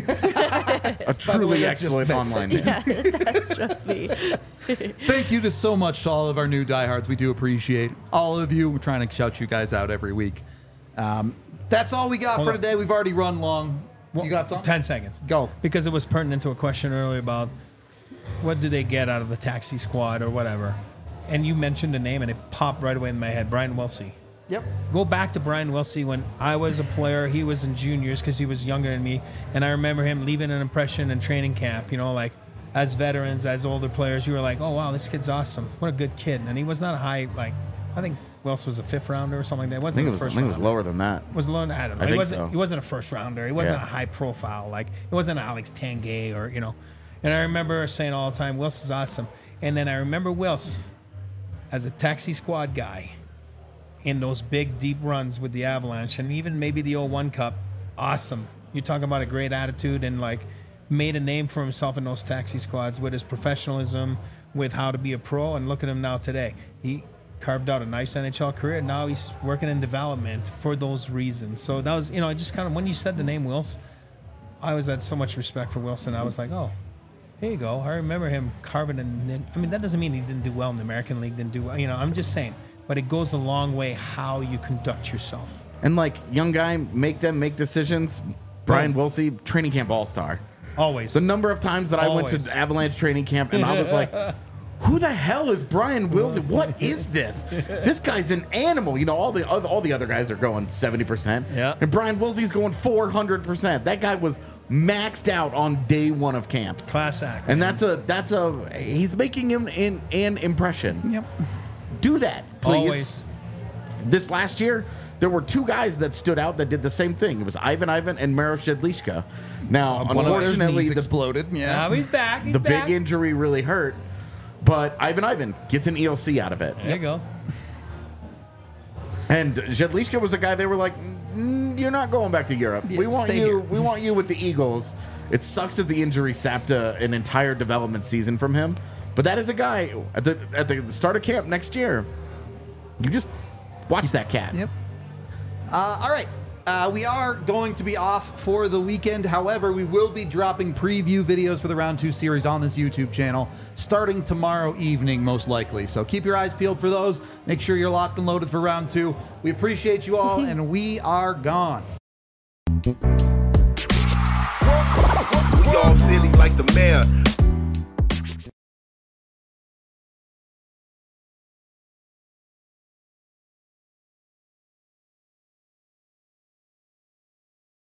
By the truly way, that's just excellent me. online name. Yeah, that's just me. Thank you to so much to all of our new diehards. We do appreciate all of you. We're trying to shout you guys out every week. Um, that's all we got Hold for on. today. We've already run long. You got something? ten seconds. Go. Because it was pertinent to a question earlier about what do they get out of the taxi squad or whatever. And you mentioned a name and it popped right away in my head, Brian Wilsey. Yep. Go back to Brian Wilsey when I was a player. He was in juniors because he was younger than me. And I remember him leaving an impression in training camp, you know, like as veterans, as older players, you were like, oh, wow, this kid's awesome. What a good kid. And he was not a high, like, I think Wilson was a fifth rounder or something like that. It I wasn't think, it a was, I first think it was rounder. lower than that. Was low, I don't know. I he think wasn't. so. He wasn't a first rounder. He wasn't Yeah. a high profile. Like it wasn't Alex Tanguay or you know. And I remember saying all the time, "Wills is awesome." And then I remember Wills as a taxi squad guy in those big deep runs with the Avalanche, and even maybe the oh one Cup. Awesome. You talk about a great attitude and like made a name for himself in those taxi squads with his professionalism, with how to be a pro. And look at him now today. He carved out a nice N H L career. Now he's working in development for those reasons. So that was, you know, I just kind of, when you said the name Wilson, I always had so much respect for Wilson. I was like, oh, here you go. I remember him carving an, I mean, that doesn't mean he didn't do well in the American League, didn't do well. You know, I'm just saying, but it goes a long way how you conduct yourself. And like, young guy, make them make decisions. Brian Wilsey, training camp all-star. Always. The number of times that Always. I went to Avalanche training camp and I was like, who the hell is Brian Wilsey? What is this? This guy's an animal. You know, all the other, all the other guys are going seventy percent. Yeah. And Brian Wilsey's going four hundred percent. That guy was maxed out on day one of camp. Class act. And man. that's a, that's a, he's making him in an impression. Yep. Do that, please. Always. This last year, there were two guys that stood out that did the same thing. It was Ivan Ivan and Maro Shedlishka. Now, One of their unfortunately, knees the, exploded. Yeah. Now he's back. He's the back. big injury really hurt, but Ivan Ivan gets an E L C out of it. There you go. And Jedlishka was a guy they were like, mm, "You're not going back to Europe. Yeah, we want stay you. here." We want you with the Eagles." It sucks that the injury sapped a, an entire development season from him, but that is a guy at the at the start of camp next year. You just watch that cat. Yep. Uh, all right. Uh, we are going to be off for the weekend. However, we will be dropping preview videos for the round two series on this YouTube channel starting tomorrow evening, most likely. So keep your eyes peeled for those. Make sure you're locked and loaded for round two. We appreciate you all, and we are gone. We all silly like the mayor.